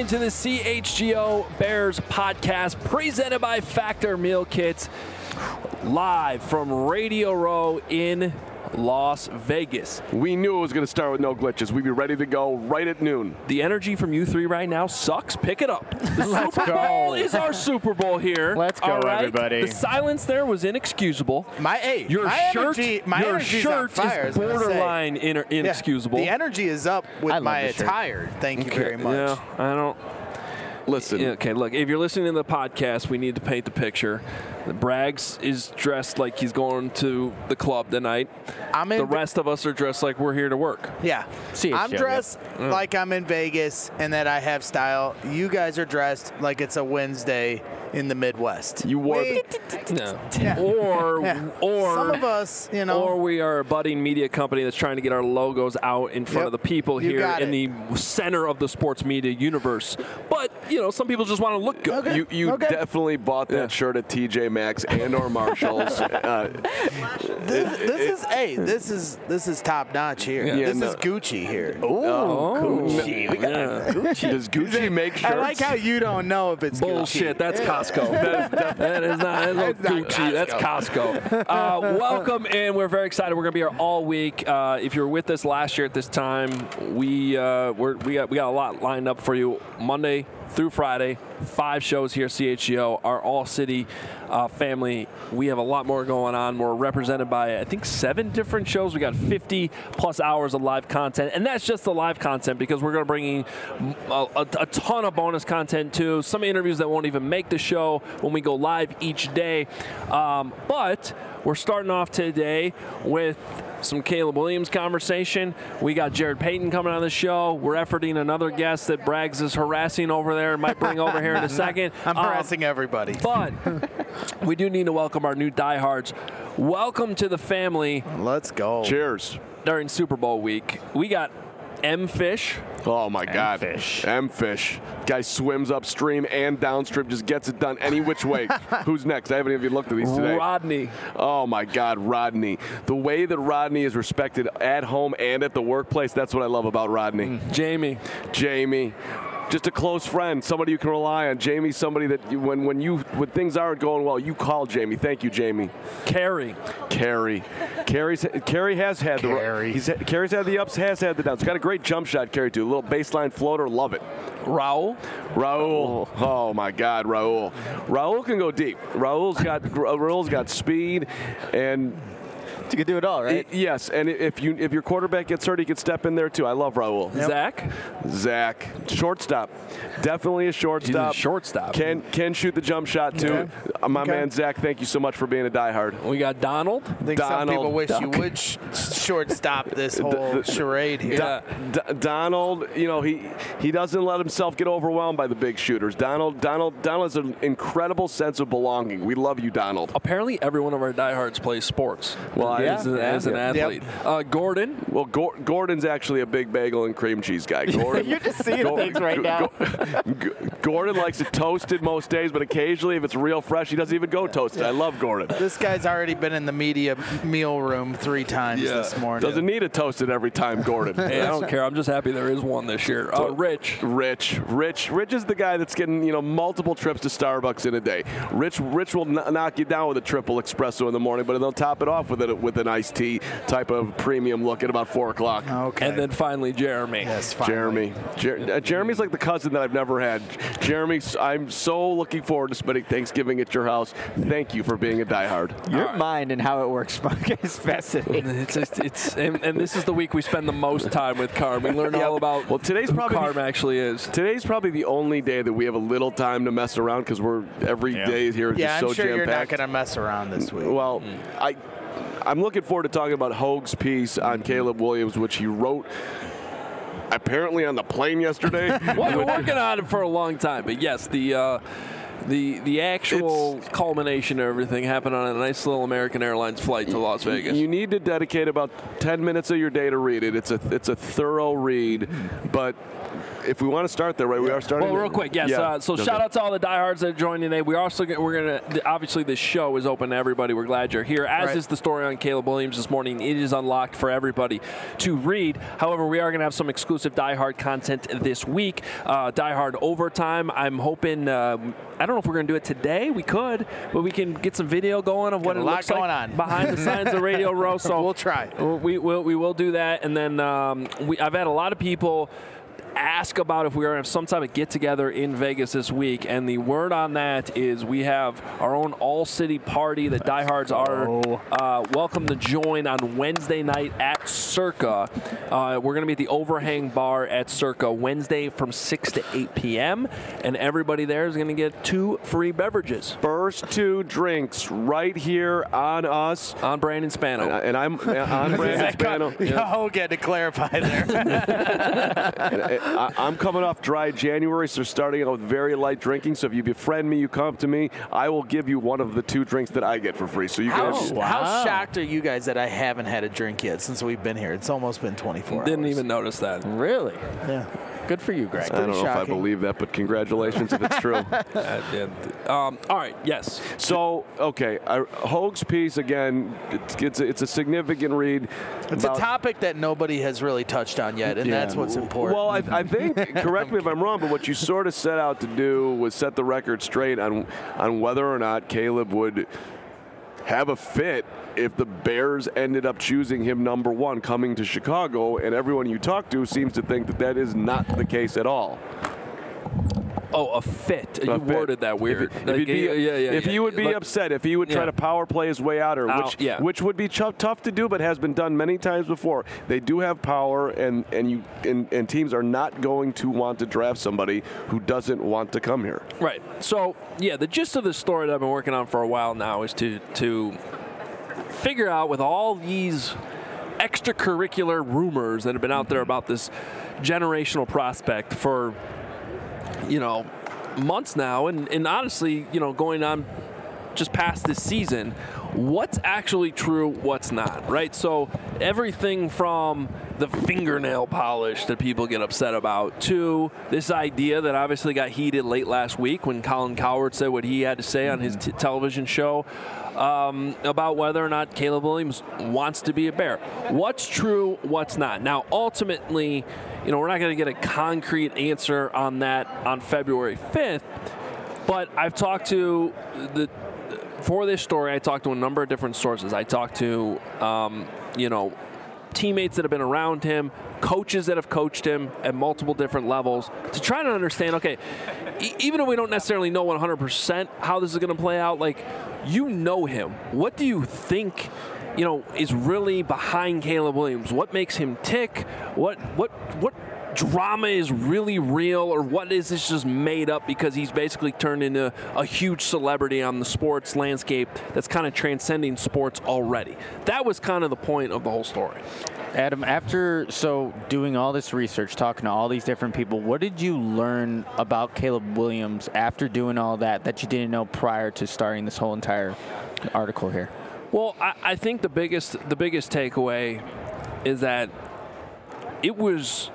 into the CHGO Bears podcast presented by Factor Meal Kits, live from Radio Row in Las Vegas. We knew it was going to start with no glitches. We'd be ready to go right at noon. The energy from you three right now sucks. Pick it up. The Super Bowl is our Super Bowl here. Let's go, everybody. The silence there was inexcusable. Your shirt is borderline inexcusable. The energy is up with my attire. Thank you very much. Yeah, I don't. Listen. Okay, look, if you're listening to the podcast, we need to paint the picture. Braggs is dressed like he's going to the club tonight. The rest of us are dressed like we're here to work. Yeah. I'm dressed like I'm in Vegas and that I have style. You guys are dressed like it's a Wednesday in the Midwest. You wore Or some of us, or we are a budding media company that's trying to get our logos out in front of the people here in the center of the sports media universe. But, some people just want to look good. Okay. You definitely bought that shirt at TJ Maxx and or Marshalls. This is top notch here. Yeah, this is Gucci here. Gucci. We got Gucci. Does Gucci make shirts? I like how you don't know if it's bullshit. Gucci. That's Costco. That is not Gucci. That's Costco. Welcome, and we're very excited. We're going to be here all week. If you were with us last year at this time, we got a lot lined up for you. Monday through Friday, 5 shows here at CHGO. Our all-city family, we have a lot more going on. We're represented by, I think, 7 different shows. We got 50-plus hours of live content, and that's just the live content because we're going to bring in a ton of bonus content, too. Some interviews that won't even make the show when we go live each day. But we're starting off today with some Caleb Williams conversation. We got Jared Payton coming on the show. We're efforting another guest that Braggs is harassing over there and might bring over here in a second. I'm harassing everybody. But we do need to welcome our new diehards. Welcome to the family. Let's go. Cheers. During Super Bowl week, we got M-Fish. Oh, my God. M-Fish. Guy swims upstream and downstream, just gets it done any which way. Who's next? I haven't even looked at these today. Rodney. Oh, my God, Rodney. The way that Rodney is respected at home and at the workplace, that's what I love about Rodney. Jamie. Just a close friend, somebody you can rely on. Jamie's somebody that when things aren't going well, you call Jamie. Thank you, Jamie. Carrie Carrie's had the ups, has had the downs. Got a great jump shot, Carrie, too. A little baseline floater, love it. Raul. Oh my God, Raul. Raul can go deep. Raul's got speed and. You can do it all, right? Yes, and if your quarterback gets hurt, he can step in there too. I love Raul. Yep. Zach, shortstop, definitely a shortstop. He's a shortstop. Can shoot the jump shot too. My man Zach, thank you so much for being a diehard. We got Donald. I think some people wish you would shortstop this whole charade here. Donald, he doesn't let himself get overwhelmed by the big shooters. Donald has an incredible sense of belonging. We love you, Donald. Apparently, every one of our diehards plays sports. Well, as an athlete. Yep. Gordon. Well, Gordon's actually a big bagel and cream cheese guy. Gordon, You're just seeing things right now. Gordon likes it toasted most days, but occasionally, if it's real fresh, he doesn't even go toasted. I love Gordon. This guy's already been in the media meal room 3 times this morning. Doesn't need it toasted every time, Gordon. Hey, I don't care. I'm just happy there is one this year. Rich is the guy that's getting multiple trips to Starbucks in a day. Rich will knock you down with a triple espresso in the morning, but they'll top it off with an iced tea type of premium look at about 4 o'clock. Okay. And then finally, Jeremy. Yes, finally. Jeremy's like the cousin that I've never had. Jeremy, I'm so looking forward to spending Thanksgiving at your house. Thank you for being a diehard. Your mind and how it works, Spunk, is fascinating. And this is the week we spend the most time with Carm. We learn all about today's probably Carm actually is. Today's probably the only day that we have a little time to mess around because every day here is just so I'm sure jam-packed. you're not going to mess around this week. Well, I'm looking forward to talking about Hoag's piece on Caleb Williams, which he wrote apparently on the plane yesterday. Well, we're working on it for a long time, but yes, The actual culmination of everything happened on a nice little American Airlines flight to Las Vegas. You need to dedicate about 10 minutes of your day to read it. It's a thorough read, but if we want to start there, right? We are starting. Well, real quick, yes. So shout out to all the diehards that are joining today. We're gonna obviously this show is open to everybody. We're glad you're here. As is the story on Caleb Williams this morning. It is unlocked for everybody to read. However, we are gonna have some exclusive diehard content this week. Diehard overtime. I'm hoping. I don't know if we're going to do it today. We could, but we can get some video going of what it looks like on behind the scenes of Radio Row. So we'll try. We will do that, and then I've had a lot of people ask about if we're going to have some type of get-together in Vegas this week, and the word on that is we have our own all-city party that diehards are welcome to join on Wednesday night at Circa. We're going to be at the Overhang Bar at Circa Wednesday from 6 to 8 p.m., and everybody there is going to get 2 free beverages. First 2 drinks right here on us. On Brandon Spano. And I'm on Brandon Spano. Oh, get to clarify there. I'm coming off dry January, so starting out with very light drinking. So if you befriend me, you come to me, I will give you one of the 2 drinks that I get for free. So you guys. How shocked are you guys that I haven't had a drink yet since we've been here? It's almost been 24 hours. Didn't even notice that. Really? Yeah. Good for you, Greg. I don't know if I believe that, but congratulations if it's true. All right, yes. So, okay, Hoag's piece, again, it's a significant read. It's a topic that nobody has really touched on yet, and that's what's important. Well, I think, correct me if I'm wrong, but what you sort of set out to do was set the record straight on whether or not Caleb would have a fit if the Bears ended up choosing him number 1 coming to Chicago, and everyone you talk to seems to think that is not the case at all. Oh, a fit. You worded that weird. If he would be upset, if he would try to power play his way out, which would be tough to do, but has been done many times before. They do have power, and teams are not going to want to draft somebody who doesn't want to come here. Right. So, the gist of the story that I've been working on for a while now is to figure out, with all these extracurricular rumors that have been out there about this generational prospect for months now, and honestly, going on just past this season, what's actually true, what's not, right? So everything from the fingernail polish that people get upset about to this idea that obviously got heated late last week when Colin Cowherd said what he had to say on his television show about whether or not Caleb Williams wants to be a Bear. What's true, what's not. Now, ultimately, we're not going to get a concrete answer on that on February 5th, but I've talked to for this story, I talked to a number of different sources. I talked to, teammates that have been around him, coaches that have coached him at multiple different levels to try to understand, okay, even if we don't necessarily know 100% how this is going to play out, him. What do you think, is really behind Caleb Williams? What makes him tick? What drama is really real, or what is this just made up because he's basically turned into a huge celebrity on the sports landscape that's kind of transcending sports already? That was kind of the point of the whole story. Adam, doing all this research, talking to all these different people, what did you learn about Caleb Williams after doing all that you didn't know prior to starting this whole entire article here? Well, I think the biggest takeaway is that it was.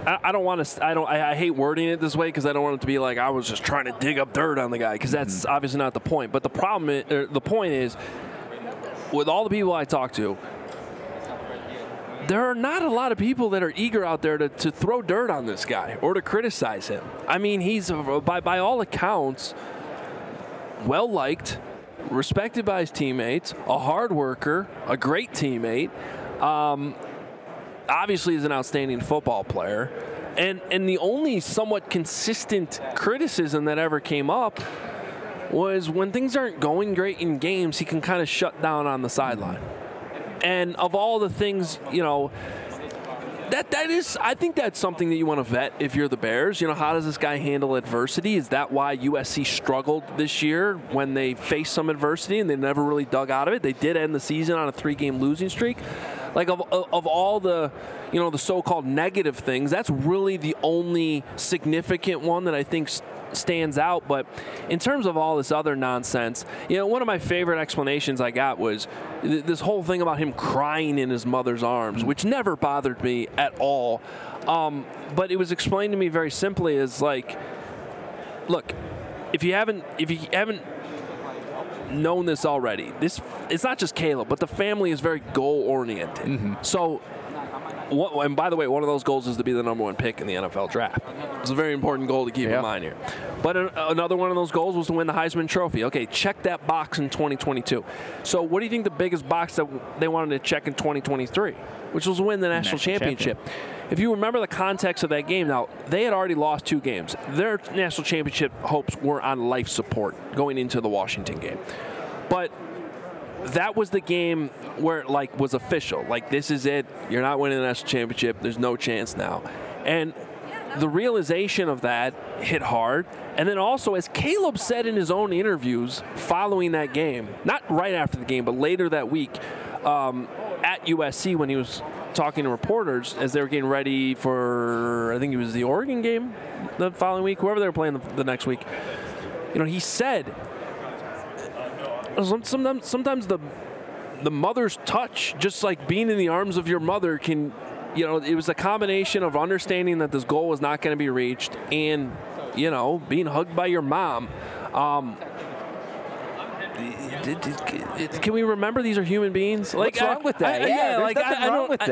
I hate wording it this way because I don't want it to be like I was just trying to dig up dirt on the guy, because that's obviously not the point. But the point is, with all the people I talk to, there are not a lot of people that are eager out there to throw dirt on this guy or to criticize him. I mean, he's, by all accounts, well-liked, respected by his teammates, a hard worker, a great teammate. Obviously is an outstanding football player. And the only somewhat consistent criticism that ever came up was when things aren't going great in games, he can kind of shut down on the sideline. And of all the things, that is, I think that's something that you want to vet if you're the Bears. How does this guy handle adversity? Is that why USC struggled this year when they faced some adversity and they never really dug out of it? They did end the season on a 3-game losing streak. Of all the, the so-called negative things, that's really the only significant one that I think stands out. But in terms of all this other nonsense, one of my favorite explanations I got was this whole thing about him crying in his mother's arms, which never bothered me at all. But it was explained to me very simply as like, look, if you haven't known this already, it's not just Caleb, but the family is very goal-oriented. Mm-hmm. So, and by the way, one of those goals is to be the number 1 pick in the NFL draft. It's a very important goal to keep in mind here. But another one of those goals was to win the Heisman Trophy. Okay, check that box in 2022. So what do you think the biggest box that they wanted to check in 2023, which was to win the national championship? If you remember the context of that game, now, they had already lost 2 games. Their national championship hopes were on life support going into the Washington game. But that was the game where it, was official. This is it. You're not winning the national championship. There's no chance now. And the realization of that hit hard. And then also, as Caleb said in his own interviews following that game, not right after the game, but later that week at USC when he was talking to reporters as they were getting ready for, I think it was the Oregon game the following week, whoever they were playing the next week. He said, sometimes the mother's touch, just like being in the arms of your mother, can, it was a combination of understanding that this goal was not going to be reached and, being hugged by your mom. Can we remember these are human beings? What's wrong with that? There's nothing wrong with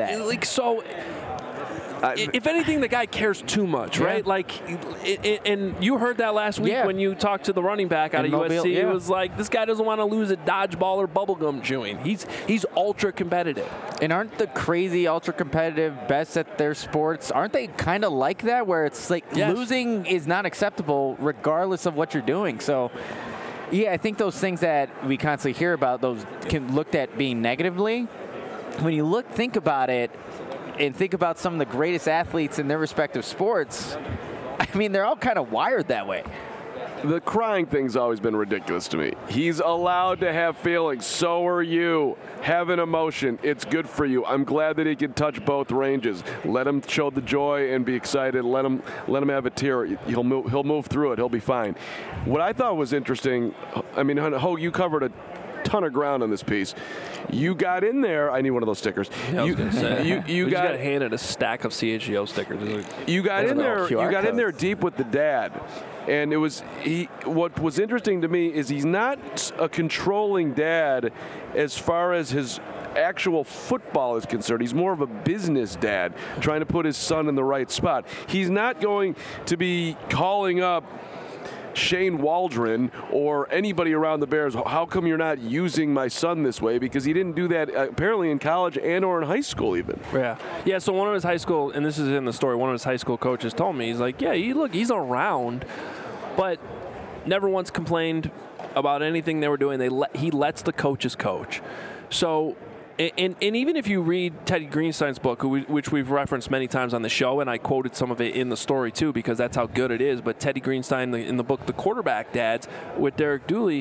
that. If anything, the guy cares too much, right? And you heard that last week when you talked to the running back out of USC. It was like, this guy doesn't want to lose at dodgeball or bubblegum chewing. He's ultra competitive. And aren't the crazy ultra competitive best at their sports, aren't they kind of like that, where it's like losing is not acceptable regardless of what you're doing? So, yeah, I think those things that we constantly hear about, those can looked at being negatively. When you think about it, and think about some of the greatest athletes in their respective sports, I mean, they're all kind of wired that way. The crying thing's always been ridiculous to me. He's allowed to have feelings. So are you. Have an emotion. It's good for you. I'm glad that he can touch both ranges. Let him show the joy and be excited. Let him have a tear. He'll move through it. He'll be fine. What I thought was interesting, I mean, Ho, you covered a ton of ground on this piece. You got in there. I need one of those stickers. Yeah, you got handed a stack of CHGO stickers. You got in there. You got in there deep with the dad, and it was what was interesting to me is he's not a controlling dad as far as his actual football is concerned. He's more of a business dad trying to put his son in the right spot. He's not going to be calling up Shane Waldron or anybody around the Bears, how come you're not using my son this way? Because he didn't do that apparently in college and or in high school even. Yeah, so one of his high school, and this is in the story, one of his high school coaches told me, he's like, he's around, but never once complained about anything they were doing. He lets the coaches coach. So, and even if you read Teddy Greenstein's book, which we've referenced many times on the show, and I quoted some of it in the story too because that's how good it is, but Teddy Greenstein in the book, The Quarterback Dads, with Derek Dooley,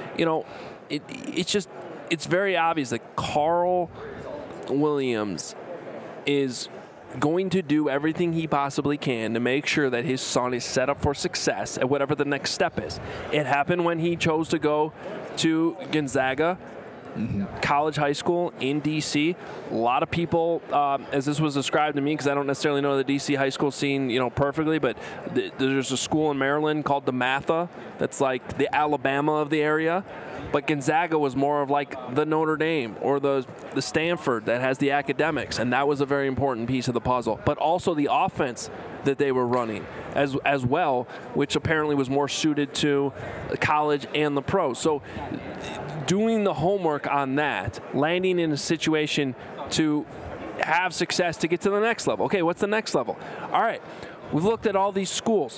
it's very obvious that Carl Williams is going to do everything he possibly can to make sure that his son is set up for success at whatever the next step is. It happened when he chose to go to Gonzaga, college, high school in D.C. A lot of people, as this was described to me, because I don't necessarily know the D.C. high school scene, perfectly, but there's a school in Maryland called DeMatha that's like the Alabama of the area. But Gonzaga was more of like the Notre Dame or the Stanford that has the academics, and that was a very important piece of the puzzle. But also the offense that they were running as well, which apparently was more suited to college and the pros. So doing the homework on that, landing in a situation to have success to get to the next level. Okay, what's the next level? All right, we've looked at all these schools.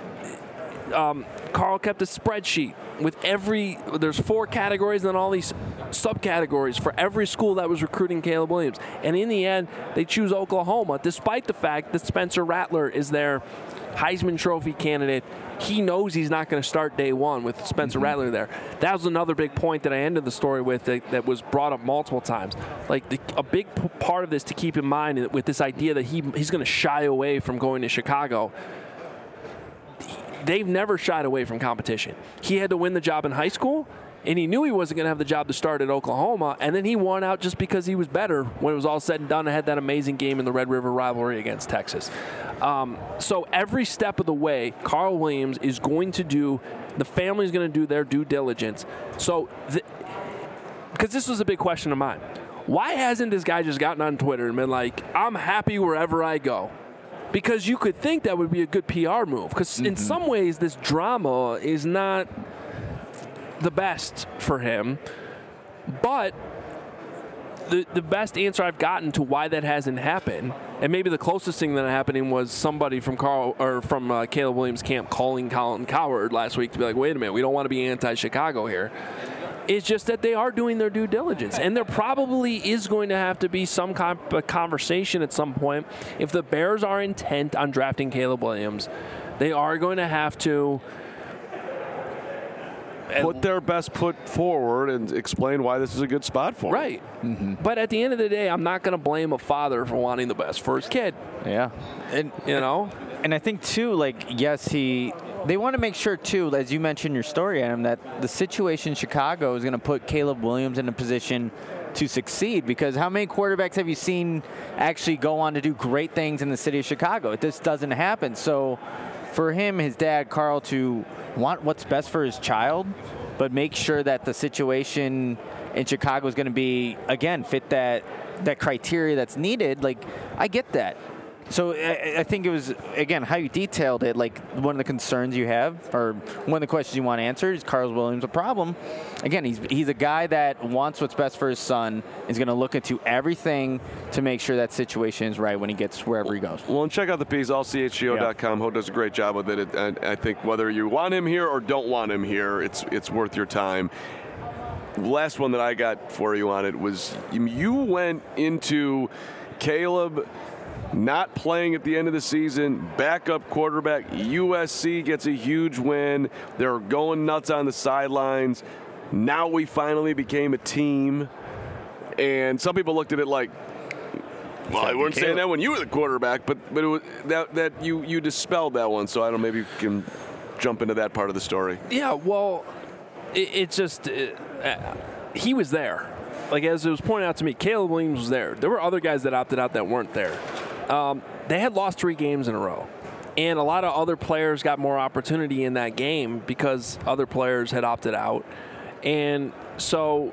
Carl kept a spreadsheet with there's 4 categories and then all these subcategories for every school that was recruiting Caleb Williams. And in the end, they choose Oklahoma, despite the fact that Spencer Rattler is their Heisman Trophy candidate. He knows he's not going to start day one with Spencer Rattler there. That was another big point that I ended the story with that was brought up multiple times. Like a big part of this to keep in mind with this idea that he's going to shy away from going to Chicago. they've never shied away from competition. He had to win the job in high school, and he knew he wasn't going to have the job to start at Oklahoma, and then he won out just because he was better when it was all said and done and had that amazing game in the Red River rivalry against Texas. So every step of the way, Carl Williams is going to do, the family's going to do their due diligence. So, because this was a big question of mine. Why hasn't this guy just gotten on Twitter and been like, I'm happy wherever I go? Because you could think that would be a good PR move. Because in some ways, this drama is not the best for him. But the best answer I've gotten to why that hasn't happened, and maybe the closest thing that happening was somebody from Caleb Williams' camp calling Colin Cowherd last week to be like, wait a minute, we don't want to be anti-Chicago here. It's just that they are doing their due diligence, and there probably is going to have to be some conversation at some point. If the Bears are intent on drafting Caleb Williams, they are going to have to put their best foot forward and explain why this is a good spot for them. Right. But at the end of the day, I'm not going to blame a father for wanting the best for his kid. Yeah. And, And I think, too, yes, they want to make sure, too, as you mentioned in your story, Adam, that the situation in Chicago is going to put Caleb Williams in a position to succeed, because how many quarterbacks have you seen actually go on to do great things in the city of Chicago? This doesn't happen. So for him, his dad, Carl, to want what's best for his child, but make sure that the situation in Chicago is going to be, again, fit that criteria that's needed, I get that. So I think it was, again, how you detailed it, one of the concerns you have, or one of the questions you want answered, is Carl Williams a problem? Again, he's a guy that wants what's best for his son, is going to look into everything to make sure that situation is right when he gets wherever he goes. Well, and check out the piece, allchgo.com. Ho does a great job with it. I think whether you want him here or don't want him here, it's worth your time. Last one that I got for you on it was, you went into Caleb not playing at the end of the season, backup quarterback. USC gets a huge win. They're going nuts on the sidelines. Now we finally became a team. And some people looked at it like, well, I weren't saying that when you were the quarterback, but it was that you dispelled that one. So I don't know, maybe you can jump into that part of the story. Yeah, well, it's just he was there. As it was pointed out to me, Caleb Williams was there. There were other guys that opted out that weren't there. They had lost 3 games in a row. And a lot of other players got more opportunity in that game because other players had opted out. And so,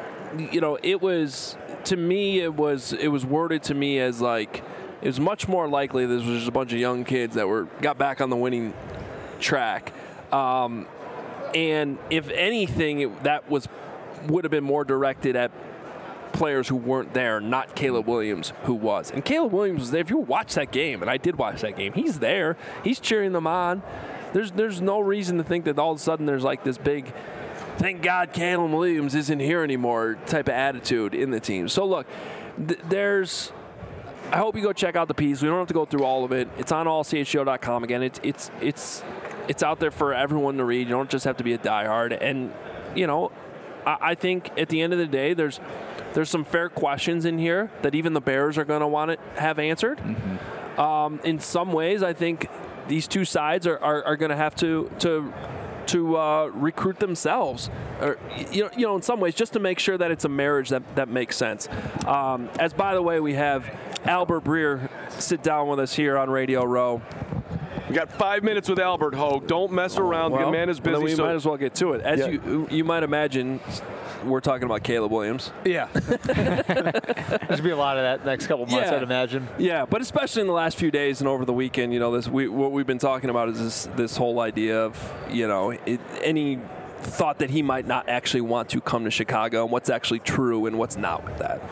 it was, to me, it was worded to me as it was much more likely this was just a bunch of young kids that got back on the winning track. And if anything, that would have been more directed at players who weren't there, not Caleb Williams, who was. And Caleb Williams was there. If you watch that game, and I did watch that game, he's there. He's cheering them on. There's no reason to think that all of a sudden there's this big, thank God Caleb Williams isn't here anymore type of attitude in the team. So look, I hope you go check out the piece. We don't have to go through all of it. It's on allchgo.com. Again, it's out there for everyone to read. You don't just have to be a diehard. And, I think at the end of the day, there's some fair questions in here that even the Bears are going to want to have answered. Mm-hmm. In some ways, I think these two sides are going to have to recruit themselves, or in some ways, just to make sure that it's a marriage that makes sense. As by the way, we have Albert Breer sit down with us here on Radio Row. We got 5 minutes with Albert Hogue. Don't mess around. The man is busy. Then we might as well get to it. As you might imagine, we're talking about Caleb Williams. Yeah. There's be a lot of that next couple months, I'd imagine. Yeah, but especially in the last few days and over the weekend, what we've been talking about is this whole idea of, any thought that he might not actually want to come to Chicago, and what's actually true and what's not with that.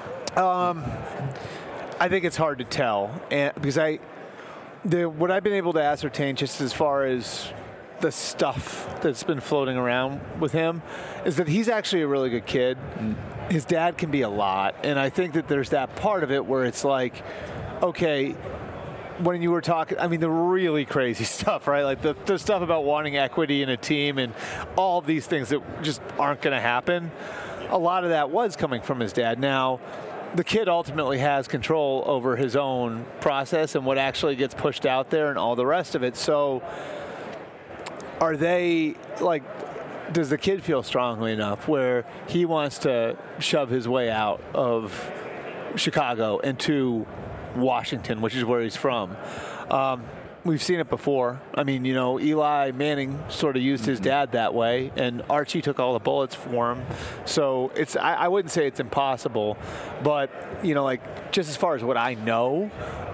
I think it's hard to tell, because what I've been able to ascertain, just as far as the stuff that's been floating around with him, is that he's actually a really good kid. His dad can be a lot, and I think that there's that part of it where it's okay, when you were talking, the really crazy stuff, right? The stuff about wanting equity in a team and all of these things that just aren't going to happen. A lot of that was coming from his dad. Now, the kid ultimately has control over his own process and what actually gets pushed out there and all the rest of it. So are they like? Does the kid feel strongly enough where he wants to shove his way out of Chicago into Washington, which is where he's from? We've seen it before. I mean, Eli Manning sort of used his dad that way, and Archie took all the bullets for him. So I wouldn't say it's impossible, but, just as far as what I know,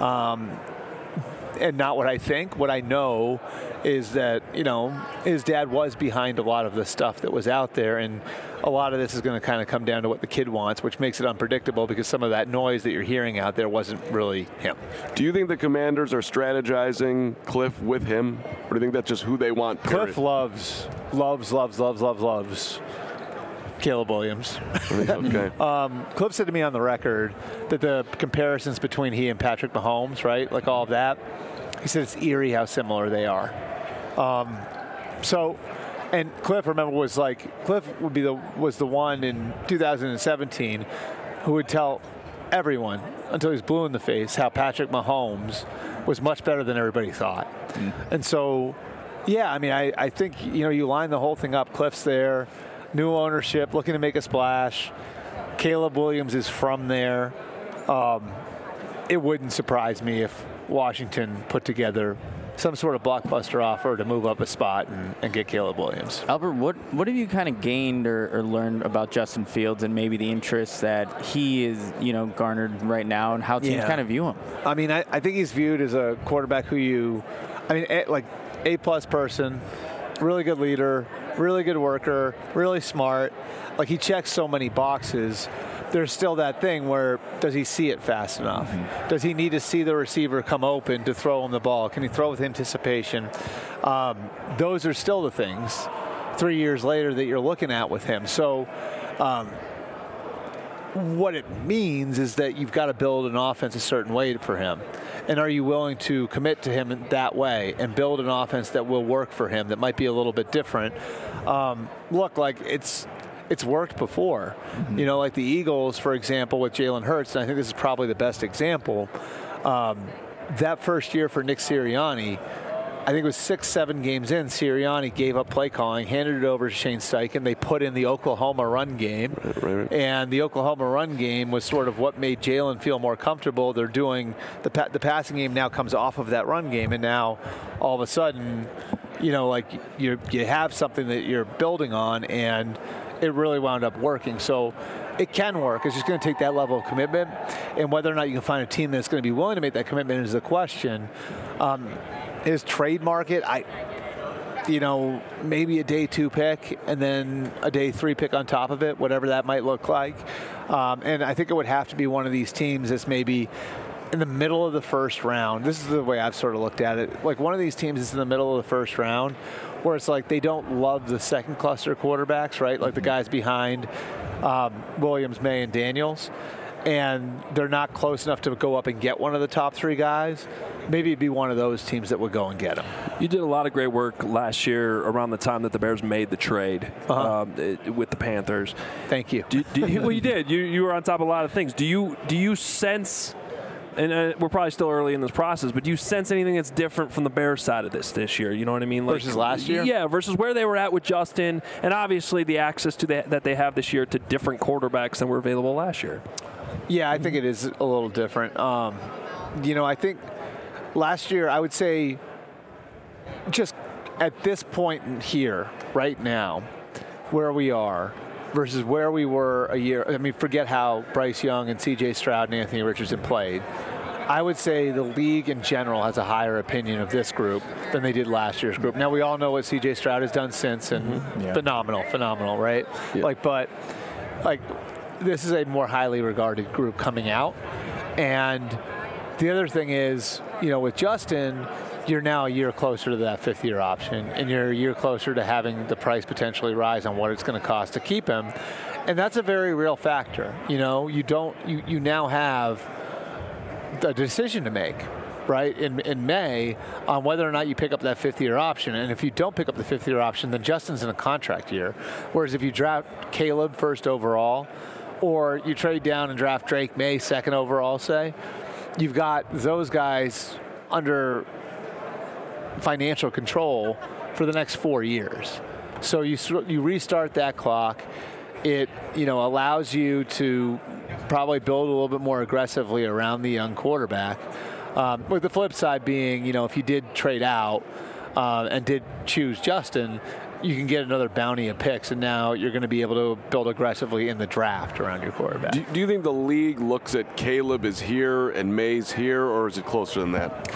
and not what I think, what I know is that, his dad was behind a lot of the stuff that was out there, and a lot of this is going to kind of come down to what the kid wants, which makes it unpredictable because some of that noise that you're hearing out there wasn't really him. Do you think the Commanders are strategizing Cliff with him, or do you think that's just who they want? Cliff loves Caleb Williams. Okay. Cliff said to me on the record that the comparisons between he and Patrick Mahomes, right, like all of that, he said it's eerie how similar they are. And Cliff, remember, was the one in 2017 who would tell everyone until he's blue in the face how Patrick Mahomes was much better than everybody thought. And so, yeah, I mean, I think, you line the whole thing up. Cliff's there, new ownership, looking to make a splash. Caleb Williams is from there. It wouldn't surprise me if Washington put together some sort of blockbuster offer to move up a spot and get Caleb Williams. Albert, what have you kind of gained or learned about Justin Fields and maybe the interest that he is, garnered right now and how teams kind of view him? I mean, I think he's viewed as a quarterback who A-plus person, really good leader, really good worker, really smart. Like, he checks so many boxes. There's still that thing where, does he see it fast enough? Mm-hmm. Does he need to see the receiver come open to throw him the ball? Can he throw with anticipation? Those are still the things 3 years later that you're looking at with him. So what it means is that you've got to build an offense a certain way for him. And are you willing to commit to him in that way and build an offense that will work for him that might be a little bit different? Look, like it's worked before. Mm-hmm. Like the Eagles, for example, with Jalen Hurts, and I think this is probably the best example. That first year for Nick Sirianni, I think it was 6-7 games in, Sirianni gave up play calling, handed it over to Shane Steichen. They put in the Oklahoma run game. Right. And the Oklahoma run game was sort of what made Jalen feel more comfortable. They're doing the passing game now comes off of that run game, and now all of a sudden, you have something that you're building on, and it really wound up working. So it can work. It's just going to take that level of commitment, and whether or not you can find a team that's going to be willing to make that commitment is the question. His trade market, maybe a day 2 pick and then a day 3 pick on top of it, whatever that might look like. And I think it would have to be one of these teams that's maybe in the middle of the first round. This is the way I've sort of looked at it. Like one of these teams is in the middle of the first round where it's like they don't love the second cluster quarterbacks, right? Like the guys behind Williams, May, and Daniels. And they're not close enough to go up and get one of the top 3 guys. Maybe it'd be one of those teams that would go and get him. You did a lot of great work last year around the time that the Bears made the trade with the Panthers. Thank you. Well, you did. You were on top of a lot of things. Do you sense, and we're probably still early in this process, but do you sense anything that's different from the Bears side of this year? You know what I mean? Versus last year? Yeah, versus where they were at with Justin, and obviously the access to that they have this year to different quarterbacks than were available last year. Yeah, I think it is a little different. I think last year, I would say just at this point here, right now, where we are versus where we were a year. I mean, forget how Bryce Young and C.J. Stroud and Anthony Richardson played. I would say the league in general has a higher opinion of this group than they did last year's group. Now, we all know what C.J. Stroud has done since, and phenomenal, right? Yeah. This is a more highly regarded group coming out. And the other thing is, with Justin, you're now a year closer to that 5th-year option, and you're a year closer to having the price potentially rise on what it's going to cost to keep him. And that's a very real factor. You now have a decision to make, right, in May on whether or not you pick up that 5th-year option. And if you don't pick up the 5th-year option, then Justin's in a contract year. Whereas if you draft Caleb first overall, or you trade down and draft Drake May 2nd overall, say, you've got those guys under financial control for the next 4 years. So you restart that clock. It allows you to probably build a little bit more aggressively around the young quarterback. With the flip side being, if you did trade out and did choose Justin, you can get another bounty of picks, and now you're going to be able to build aggressively in the draft around your quarterback. Do you think the league looks at Caleb is here and May's here, or is it closer than that?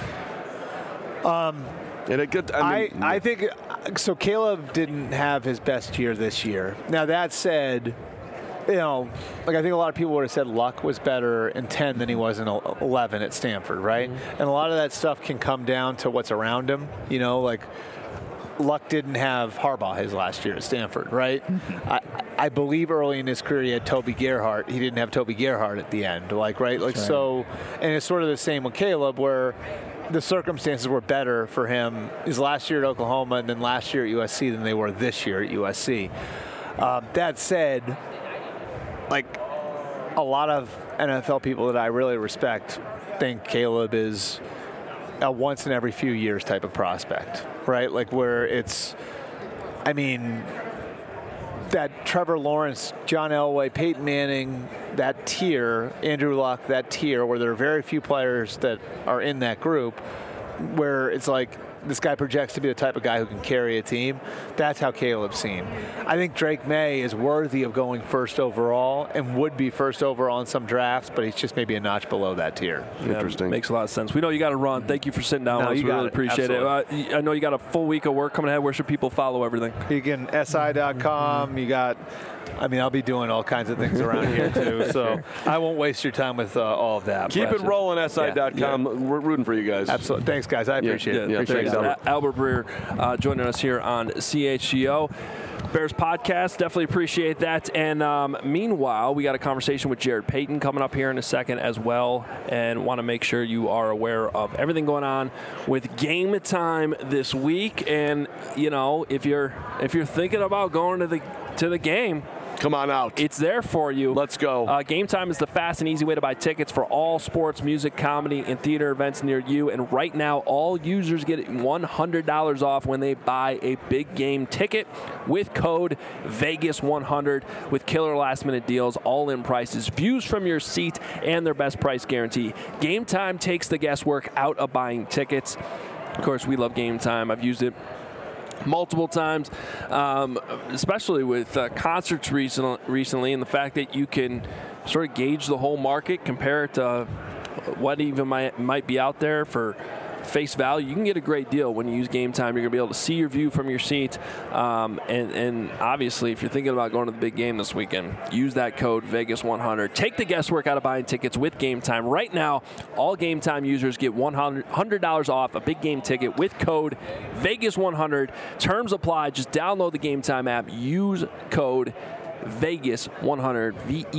I think so. Caleb didn't have his best year this year. Now that said, I think a lot of people would have said Luck was better in 10 than he was in 11 at Stanford, right? Mm-hmm. And a lot of that stuff can come down to what's around him. Luck didn't have Harbaugh his last year at Stanford, right? I believe early in his career he had Toby Gerhart. He didn't have Toby Gerhart at the end, right? So, and it's sort of the same with Caleb, where the circumstances were better for him his last year at Oklahoma and then last year at USC than they were this year at USC. That said, a lot of NFL people that I really respect think Caleb is a once in every few years type of prospect, right? Where it's, that Trevor Lawrence, John Elway, Peyton Manning, that tier, Andrew Luck, that tier, where there are very few players that are in that group, where it's this guy projects to be the type of guy who can carry a team. That's how Caleb's seen. I think Drake May is worthy of going first overall and would be first overall in some drafts, but he's just maybe a notch below that tier. Interesting. Makes a lot of sense. We know you got to run. Thank you for sitting down with us. We really appreciate it. I know you got a full week of work coming ahead. Where should people follow everything? You can SI.com. You got, I'll be doing all kinds of things around here too, so I won't waste your time with all of that. Keep it rolling, SI.com. Yeah. We're rooting for you guys. Absolutely. Thanks, guys. I appreciate it. Yeah, appreciate it. Albert Breer joining us here on CHGO. Bears podcast, definitely appreciate that. And meanwhile, we got a conversation with Jared Payton coming up here in a second as well, and want to make sure you are aware of everything going on with Game Time this week. And if you're thinking about going to the game, come on out. It's there for you. Let's go. Game Time is the fast and easy way to buy tickets for all sports, music, comedy, and theater events near you. And right now, all users get $100 off when they buy a big game ticket with code VEGAS100 with killer last-minute deals, all-in prices, views from your seat, and their best price guarantee. Game Time takes the guesswork out of buying tickets. Of course, we love Game Time. I've used it multiple times, especially with concerts recently, and the fact that you can sort of gauge the whole market, compare it to what even might be out there for face value. You can get a great deal when you use Game Time. You're going to be able to see your view from your seat, and obviously, if you're thinking about going to the big game this weekend, use that code VEGAS100. Take the guesswork out of buying tickets with Game Time. Right now, all Game Time users get $100 off a big game ticket with code VEGAS100. Terms apply. Just download the Game Time app. Use code VEGAS100,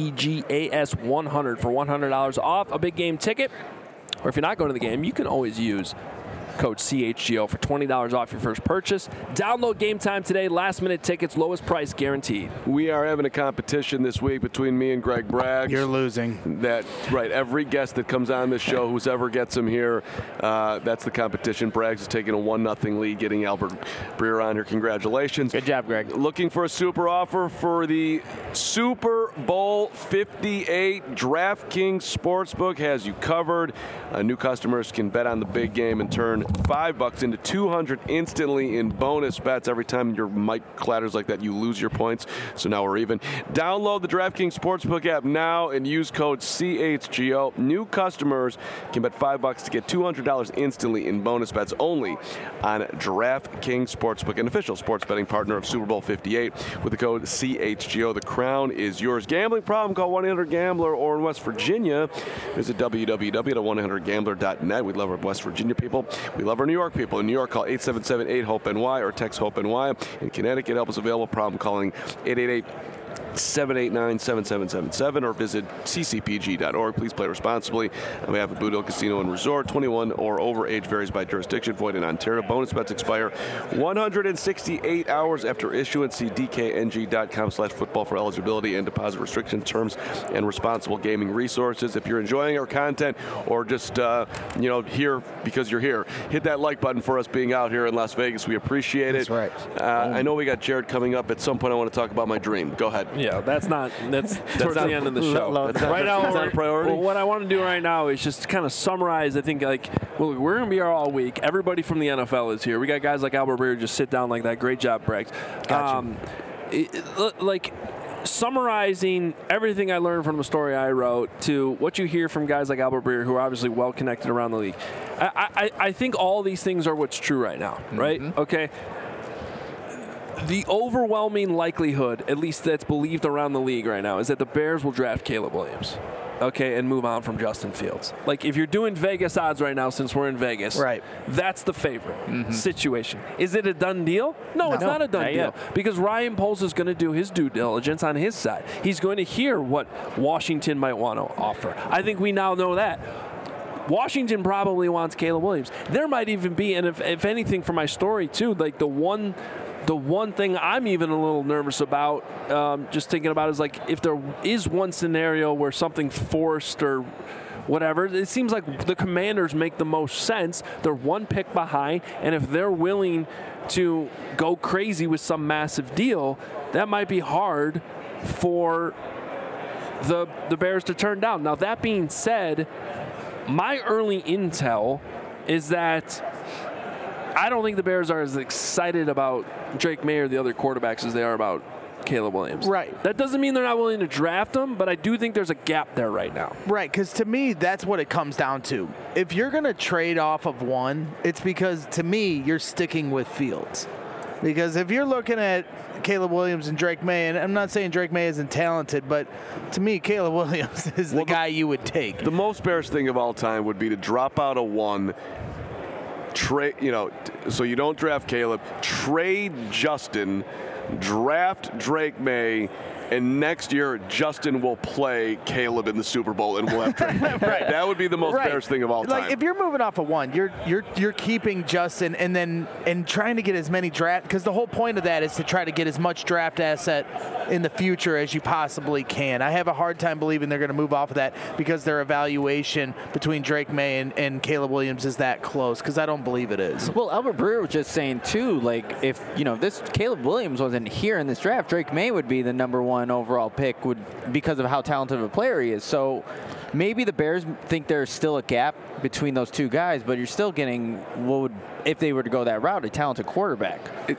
VEGAS 100 for $100 off a big game ticket. Or if you're not going to the game, you can always use code CHGO for $20 off your first purchase. Download Game Time today. Last-minute tickets, lowest price guaranteed. We are having a competition this week between me and Greg Braggs. You're losing. Right. Every guest that comes on this show, whoever gets him here, that's the competition. Braggs is taking a 1-0 lead, getting Albert Breer on here. Congratulations. Good job, Greg. Looking for a super offer for the Super Bowl 58. DraftKings Sportsbook has you covered. New customers can bet on the big game and turn $5 into $200 instantly in bonus bets. Every time your mic clatters like that, you lose your points. So now we're even. Download the DraftKings Sportsbook app now and use code CHGO. New customers can bet $5 to get $200 instantly in bonus bets only on DraftKings Sportsbook, an official sports betting partner of Super Bowl 58. With the code CHGO, the crown is yours. Gambling problem? Call 1-800-GAMBLER, or in West Virginia, visit www.1-800-GAMBLER.net. We love our West Virginia people. We love our New York people. In New York, call 877-8-HOPE-NY or text HOPE-NY. In Connecticut, help is available. Problem calling 789-7777 or visit ccpg.org. Please play responsibly. On behalf of Boot Hill Casino and Resort, 21 or over, age varies by jurisdiction, void in Ontario. Bonus bets expire 168 hours after issuance. See dkng.com/football for eligibility and deposit restriction terms and responsible gaming resources. If you're enjoying our content or just here because you're here, hit that like button for us being out here in Las Vegas. We appreciate it. That's right. I know we got Jared coming up at some point. I want to talk about my dream. Go ahead. Yeah, that's towards the end of the show. Right now, that's not a priority. Well, what I want to do right now is just kind of summarize. I think we're going to be here all week. Everybody from the NFL is here. We got guys like Albert Breer just sit down like that. Great job, Braggs. Summarizing everything I learned from the story I wrote to what you hear from guys like Albert Breer, who are obviously well connected around the league. I think all these things are what's true right now, right? Mm-hmm. Okay. The overwhelming likelihood, at least that's believed around the league right now, is that the Bears will draft Caleb Williams, okay, and move on from Justin Fields. Like, if you're doing Vegas odds right now, since we're in Vegas, right, that's the favorite situation. Is it a done deal? No, it's not a done deal. Because Ryan Poles is going to do his due diligence on his side. He's going to hear what Washington might want to offer. I think we now know that. Washington probably wants Caleb Williams. There might even be, and if anything for my story too, like the one thing I'm even a little nervous about, just thinking about, is like if there is one scenario where something forced or whatever, it seems like the Commanders make the most sense. They're one pick behind, and if they're willing to go crazy with some massive deal, that might be hard for the Bears to turn down. Now, that being said, my early intel is that I don't think the Bears are as excited about Drake May or the other quarterbacks as they are about Caleb Williams. Right. That doesn't mean they're not willing to draft him, but I do think there's a gap there right now. Right, because to me, that's what it comes down to. If you're going to trade off of one, it's because, to me, you're sticking with Fields. Because if you're looking at Caleb Williams and Drake May, and I'm not saying Drake May isn't talented, but to me, Caleb Williams is the guy you would take. The most Bears thing of all time would be to drop out a one, so you don't draft Caleb, trade Justin, draft Drake May, and next year Justin will play Caleb in the Super Bowl and we'll have Drake May. Right. That would be the most Bears thing of all time. Like, if you're moving off of one, you're keeping Justin and trying to get as many draft, because the whole point of that is to try to get as much draft asset in the future as you possibly can. I have a hard time believing they're going to move off of that because their evaluation between Drake May and Caleb Williams is that close, because I don't believe it is. Well, Albert Breer was just saying too, like, if this Caleb Williams wasn't here in this draft, Drake May would be the number one overall pick because of how talented of a player he is. So maybe the Bears think there's still a gap between those two guys, but you're still getting what would, if they were to go that route, a talented quarterback. It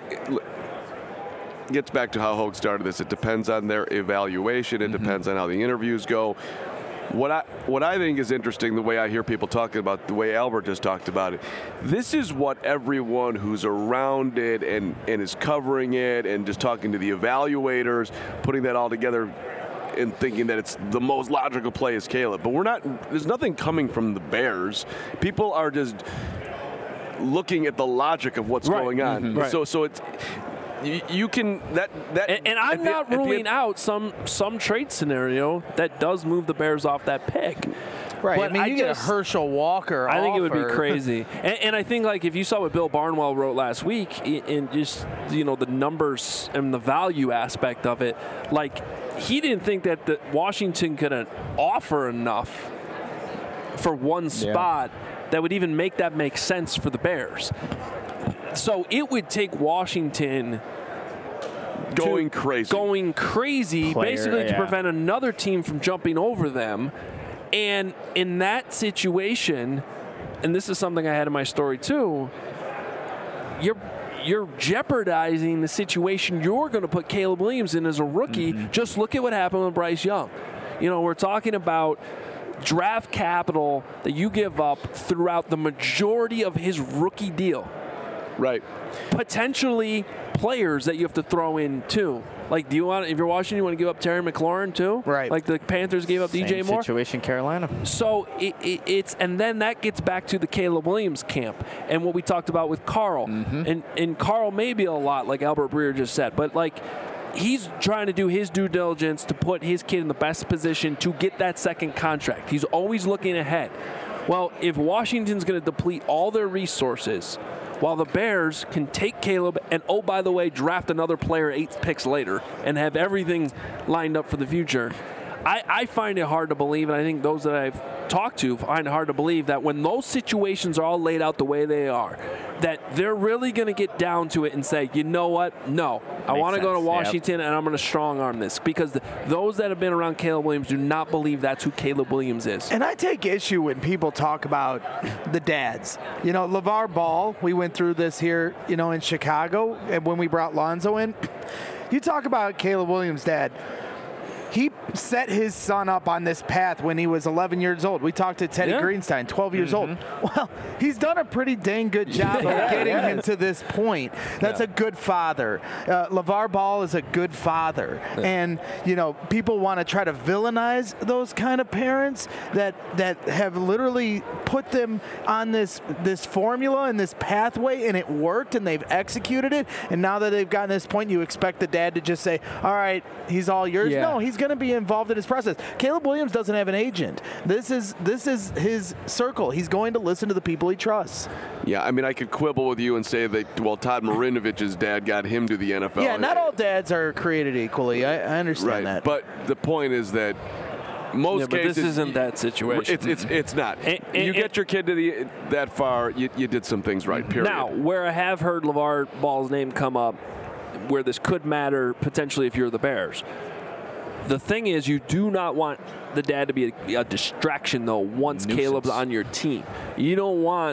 gets back to how Hogue started this. It depends on their evaluation. It depends on how the interviews go. What I think is interesting, the way I hear people talking about, the way Albert just talked about it, this is what everyone who's around it and is covering it and just talking to the evaluators, putting that all together and thinking that it's the most logical play is Caleb. But there's nothing coming from the Bears. People are just looking at the logic of what's going on. Right. So it's... You can and I'm not ruling out some trade scenario that does move the Bears off that pick. Right. But I mean, you get a Herschel Walker. I think it would be crazy. and I think, like, if you saw what Bill Barnwell wrote last week in just the numbers and the value aspect of it, like, he didn't think that Washington could offer enough for one spot that would even make sense for the Bears. So it would take Washington going crazy, basically to prevent another team from jumping over them. And in that situation, and this is something I had in my story too, you're jeopardizing the situation you're going to put Caleb Williams in as a rookie. Just look at what happened with Bryce Young. We're talking about draft capital that you give up throughout the majority of his rookie deal. Right. Potentially players that you have to throw in too. Like, if you're Washington, you want to give up Terry McLaurin too? Right. Like the Panthers gave up DJ Moore. Situation Carolina. So it's and then that gets back to the Caleb Williams camp and what we talked about with Carl. And Carl may be a lot like Albert Breer just said, but like he's trying to do his due diligence to put his kid in the best position to get that second contract. He's always looking ahead. Well, if Washington's going to deplete all their resources while the Bears can take Caleb and, oh, by the way, draft another player 8 picks later and have everything lined up for the future, I find it hard to believe, and I think those that I've talked to find it hard to believe that when those situations are all laid out the way they are, that they're really going to get down to it and say, you know what, no, I want to go to Washington and I'm going to strong-arm this. Because those that have been around Caleb Williams do not believe that's who Caleb Williams is. And I take issue when people talk about the dads. You know, LeVar Ball, we went through this here, you know, in Chicago, and when we brought Lonzo in. You talk about Caleb Williams' dad. He set his son up on this path when he was 11 years old. We talked to Teddy Greenstein, 12 years old. Well, he's done a pretty dang good job of getting him to this point. That's a good father. LeVar Ball is a good father. And, you know, people want to try to villainize those kind of parents that have literally put them on this formula and this pathway, and it worked, and they've executed it. And now that they've gotten to this point, you expect the dad to just say, all right, he's all yours. Yeah. No, he's going to be involved in his process. Caleb Williams doesn't have an agent. This is his circle. He's going to listen to the people he trusts. Yeah, I mean, I could quibble with you and say that, well, Todd Marinovich's dad got him to the NFL. Yeah, not all dads are created equally. I understand that. But the point is that most cases, this isn't that situation. It's not. You get your kid to that far, you did some things right, period. Now, where I have heard LeVar Ball's name come up, where this could matter potentially if you're the Bears, the thing is, you do not want the dad to be a distraction, though, once Caleb's on your team. You don't want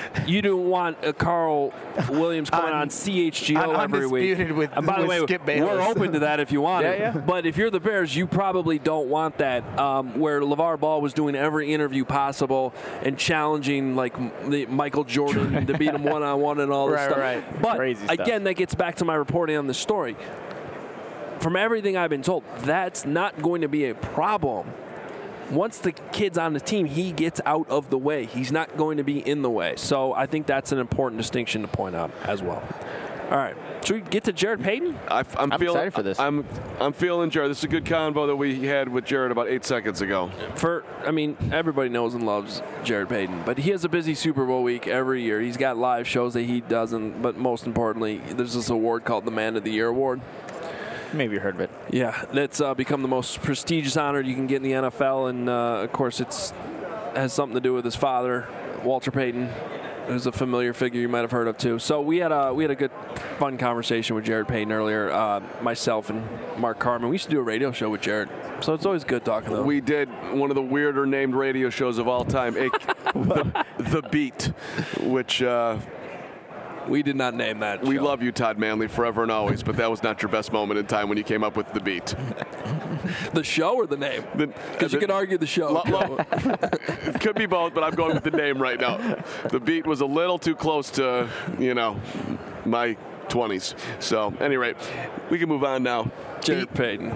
a Carl Williams coming on CHGO every week. And by the way, we're open to that if you want it. But if you're the Bears, you probably don't want that, where LeVar Ball was doing every interview possible and challenging, like, Michael Jordan to beat him one-on-one and all this stuff. Right. But, again, that gets back to my reporting on the story. From everything I've been told, that's not going to be a problem. Once the kid's on the team, he gets out of the way. He's not going to be in the way. So I think that's an important distinction to point out as well. All right. Should we get to Jared Payton? I'm excited for this. I'm feeling Jared. This is a good convo that we had with Jared about 8 seconds ago. Everybody knows and loves Jared Payton, but he has a busy Super Bowl week every year. He's got live shows that he doesn't, but most importantly, there's this award called the Man of the Year Award. Maybe you heard of it. Yeah, that's become the most prestigious honor you can get in the NFL, and of course it has something to do with his father, Walter Payton, who's a familiar figure you might have heard of too. So we had a good, fun conversation with Jared Payton earlier, myself and Mark Carman. We used to do a radio show with Jared, so it's always good talking to him. We did one of the weirder named radio shows of all time, The Beat, which... we did not name that We show. love you, Todd Manley, forever and always, but that was not your best moment in time when you came up with The Beat. The show or the name? Because you could argue the show. It could be both, but I'm going with the name right now. The Beat was a little too close to, my 20s. So, at any rate, we can move on now. Jared Payton.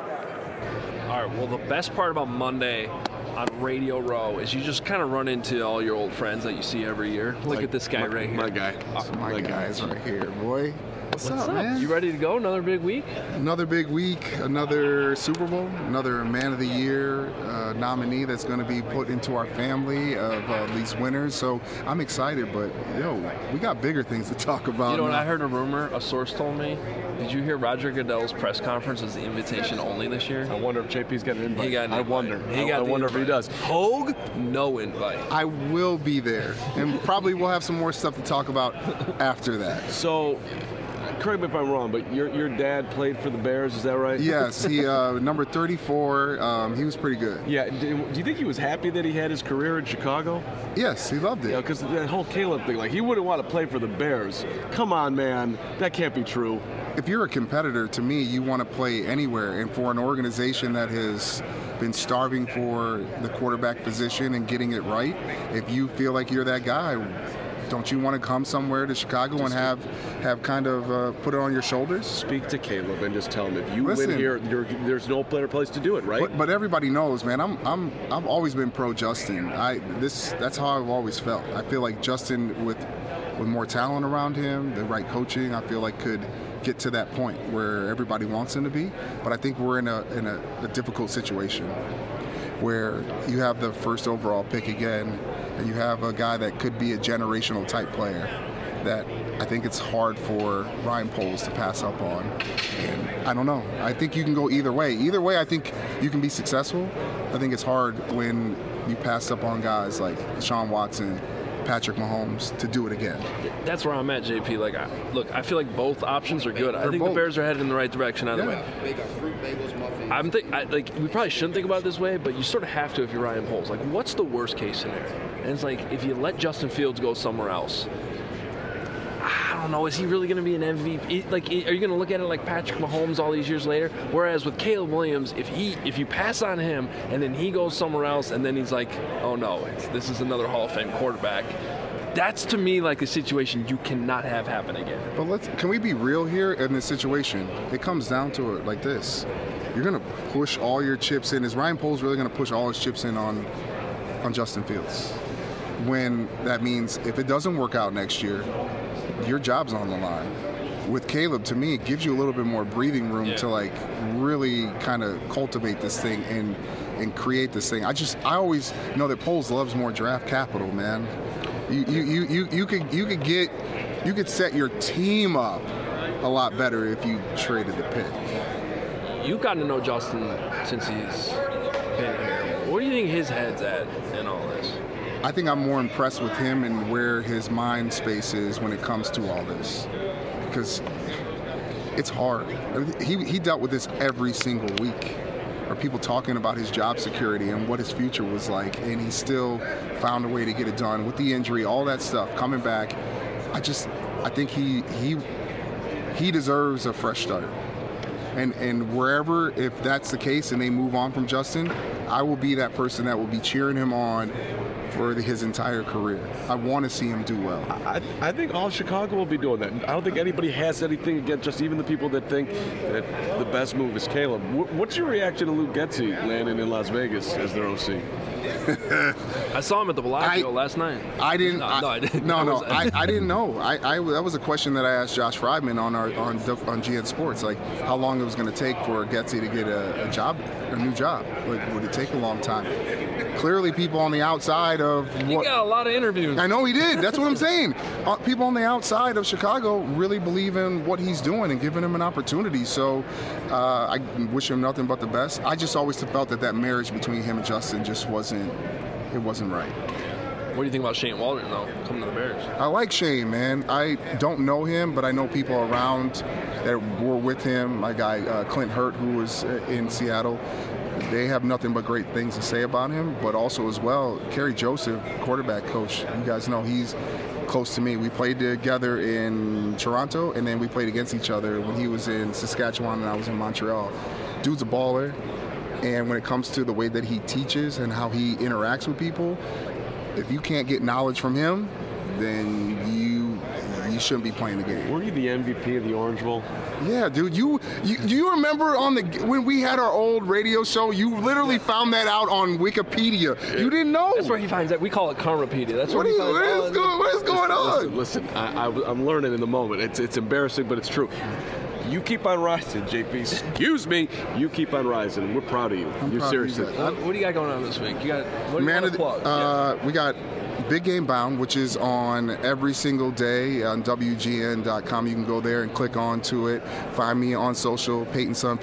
All right, well, the best part about Monday on Radio Row is you just kind of run into all your old friends that you see every year. Look at this guy right here. My guy. My guys right here, boy. What's up, man? You ready to go? Another big week? Another big week, another Super Bowl, another Man of the Year nominee that's going to be put into our family of these winners. So I'm excited, but, we got bigger things to talk about. You know what? I heard a rumor, a source told me. Did you hear Roger Goodell's press conference is the invitation only this year? I wonder if JP's got an invite. He got an invite. I wonder if he does. Hogue, no invite. I will be there, and probably we'll have some more stuff to talk about after that. So, correct me if I'm wrong, but your dad played for the Bears, is that right? Yes, he number 34. He was pretty good. Yeah. Do you think he was happy that he had his career in Chicago? Yes, he loved it. Yeah, because that whole Caleb thing, like he wouldn't want to play for the Bears. Come on, man, that can't be true. If you're a competitor, to me, you want to play anywhere. And for an organization that has been starving for the quarterback position and getting it right, if you feel like you're that guy, don't you want to come somewhere to Chicago and have kind of put it on your shoulders? Speak to Caleb and just tell him if you win here, there's no better place to do it, right? But everybody knows, man. I've always been pro Justin. That's how I've always felt. I feel like Justin with more talent around him, the right coaching, I feel like could get to that point where everybody wants him to be. But I think we're in a difficult situation where you have the first overall pick again, and you have a guy that could be a generational type player that I think it's hard for Ryan Poles to pass up on. And I don't know. I think you can go either way. Either way, I think you can be successful. I think it's hard when you pass up on guys like Deshaun Watson, Patrick Mahomes to do it again. That's where I'm at, JP. Like, I feel like both options are good. I think the Bears are headed in the right direction either way. We probably shouldn't think about it this way, but you sort of have to if you're Ryan Poles. Like, what's the worst case scenario? And it's like, if you let Justin Fields go somewhere else, I don't know, is he really going to be an MVP? Like, are you going to look at it like Patrick Mahomes all these years later? Whereas with Caleb Williams, if you pass on him and then he goes somewhere else and then he's like, oh no, this is another Hall of Fame quarterback, that's to me like a situation you cannot have happen again. But can we be real here in this situation? It comes down to it like this. You're going to push all your chips in. Is Ryan Poles really going to push all his chips in on Justin Fields? When that means if it doesn't work out next year, your job's on the line. With Caleb, to me, it gives you a little bit more breathing room to like really kind of cultivate this thing and create this thing. I always know that Poles loves more draft capital, man. You could set your team up a lot better if you traded the pick. You've gotten to know Justin since he's been here. Where do you think his head's at in all this? I think I'm more impressed with him and where his mind space is when it comes to all this, because it's hard. He dealt with this every single week. Or people talking about his job security and what his future was like, and he still found a way to get it done with the injury, all that stuff, coming back. I think he deserves a fresh start. And wherever, if that's the case and they move on from Justin, I will be that person that will be cheering him on for his entire career. I want to see him do well. I think all Chicago will be doing that. I don't think anybody has anything against just even the people that think that the best move is Caleb. What's your reaction to Luke Getsy landing in Las Vegas as their OC? I saw him at the Bellagio last night. I didn't. No, I didn't. No, I didn't know. That was a question that I asked Josh Friedman on GN Sports, like how long it was going to take for Getsy to get a new job. Like, would it take a long time? Clearly, people on the outside of he got a lot of interviews. I know he did. That's what I'm saying. People on the outside of Chicago really believe in what he's doing and giving him an opportunity. So I wish him nothing but the best. I just always felt that marriage between him and Justin just wasn't right. What do you think about Shane Waldron, though, coming to the Bears? I like Shane, man. I don't know him, but I know people around that were with him. My guy, Clint Hurt, who was in Seattle. They have nothing but great things to say about him, but also as well, Kerry Joseph, quarterback coach, you guys know he's close to me. We played together in Toronto, and then we played against each other when he was in Saskatchewan and I was in Montreal. Dude's a baller, and when it comes to the way that he teaches and how he interacts with people, if you can't get knowledge from him, then you shouldn't be playing the game. Were you the MVP of the Orange Bowl? Yeah, dude. Do you remember when we had our old radio show? You literally found that out on Wikipedia. You didn't know. That's where he finds that. We call it Karmapedia. That's where he finds out. What is going on? Listen, I'm learning in the moment. It's embarrassing, but it's true. You keep on rising, JP. Excuse me. You keep on rising. We're proud of you. You're seriously. What do you got going on this week? You got what Man do you want to plug? We got Big Game Bound, which is on every single day on WGN.com. You can go there and click on to it. Find me on social, Peyton Sun,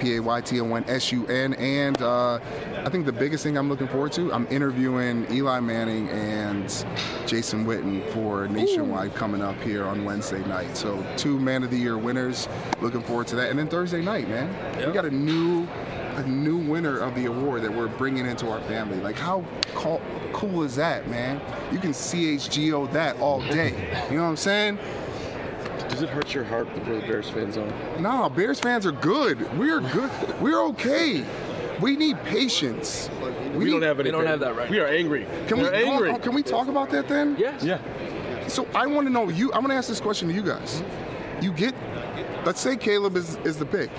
PAYTON, and I think the biggest thing I'm looking forward to, I'm interviewing Eli Manning and Jason Witten for Nationwide coming up here on Wednesday night. So 2 Man of the Year winners. Looking forward to that. And then Thursday night, man, we got a new winner of the award that we're bringing into our family. Like, how cool is that, man? You can CHGO that all day. You know what I'm saying? Does it hurt your heart where the Bears fans are? No, Bears fans are good. We're good. We're okay. We need patience. We don't have anything. We don't have that right. We are angry. Can we talk about that then? Yes. Yeah. So I want to know, I'm going to ask this question to you guys. Let's say Caleb is the pick.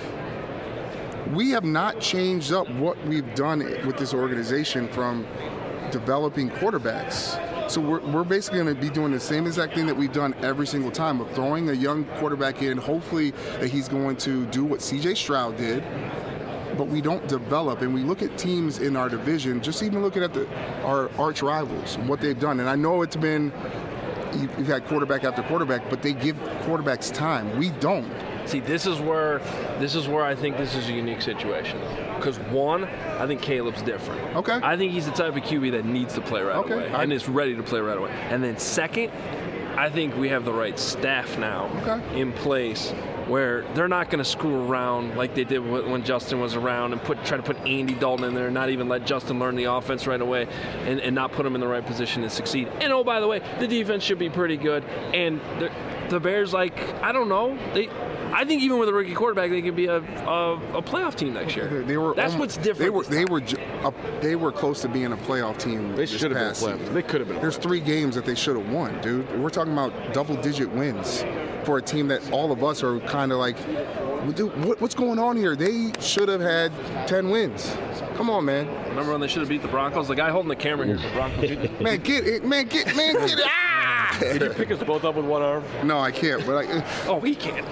We have not changed up what we've done with this organization from developing quarterbacks So we're basically going to be doing the same exact thing that we've done every single time of throwing a young quarterback in, hopefully that he's going to do what C.J. Stroud did, but we don't develop. And we look at teams in our division, just even looking at our arch rivals and what they've done. And I know it's been, you've had quarterback after quarterback, but they give quarterbacks time. We don't. See, this is where I think this is a unique situation. Because one, I think Caleb's different. Okay. I think he's the type of QB that needs to play right away and is ready to play right away. And then second, I think we have the right staff now in place where they're not going to screw around like they did when Justin was around and try to put Andy Dalton in there and not even let Justin learn the offense right away and not put him in the right position to succeed. And oh, by the way, the defense should be pretty good. And the Bears, I don't know, I think even with a rookie quarterback, they could be a playoff team next year. That's what's different. They were close to being a playoff team. They should have been playoff. They could have been. There's 3 games that they should have won, dude. We're talking about double-digit wins for a team that all of us are kind of like, what's going on here? They should have had 10 wins. Come on, man. Remember when they should have beat the Broncos? The guy holding the camera here, the Broncos. Get it. Ah! Can you pick us both up with one arm? No, I can't. But he can't.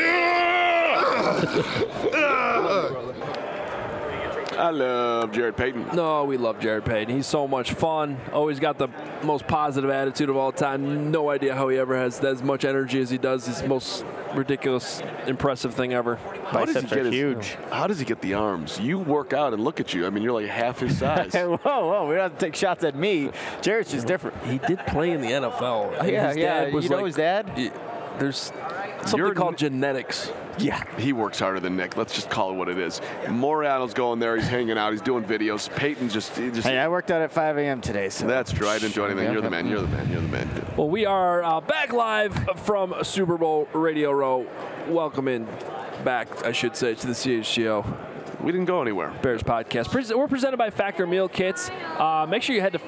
I love Jared Payton. No, we love Jared Payton. He's so much fun. Always got the most positive attitude of all time. No idea how he ever has as much energy as he does. He's the most ridiculous, impressive thing ever. Biceps are huge. How does he get the arms? You work out and look at you. I mean, you're like half his size. Whoa, we don't have to take shots at me. Jared's just different. He did play in the NFL. Yeah. You know his dad? There's something called genetics. Yeah. He works harder than Nick. Let's just call it what it is. Moriano's going there. He's hanging out. He's doing videos. Peyton just Hey, I worked out at 5 a.m. today. So. That's true. I didn't do anything. You're the man. Well, we are back live from Super Bowl Radio Row. Welcome in back, I should say, to the CHGO. We didn't go anywhere. Bears podcast. We're presented by Factor Meal Kits. Make sure you head to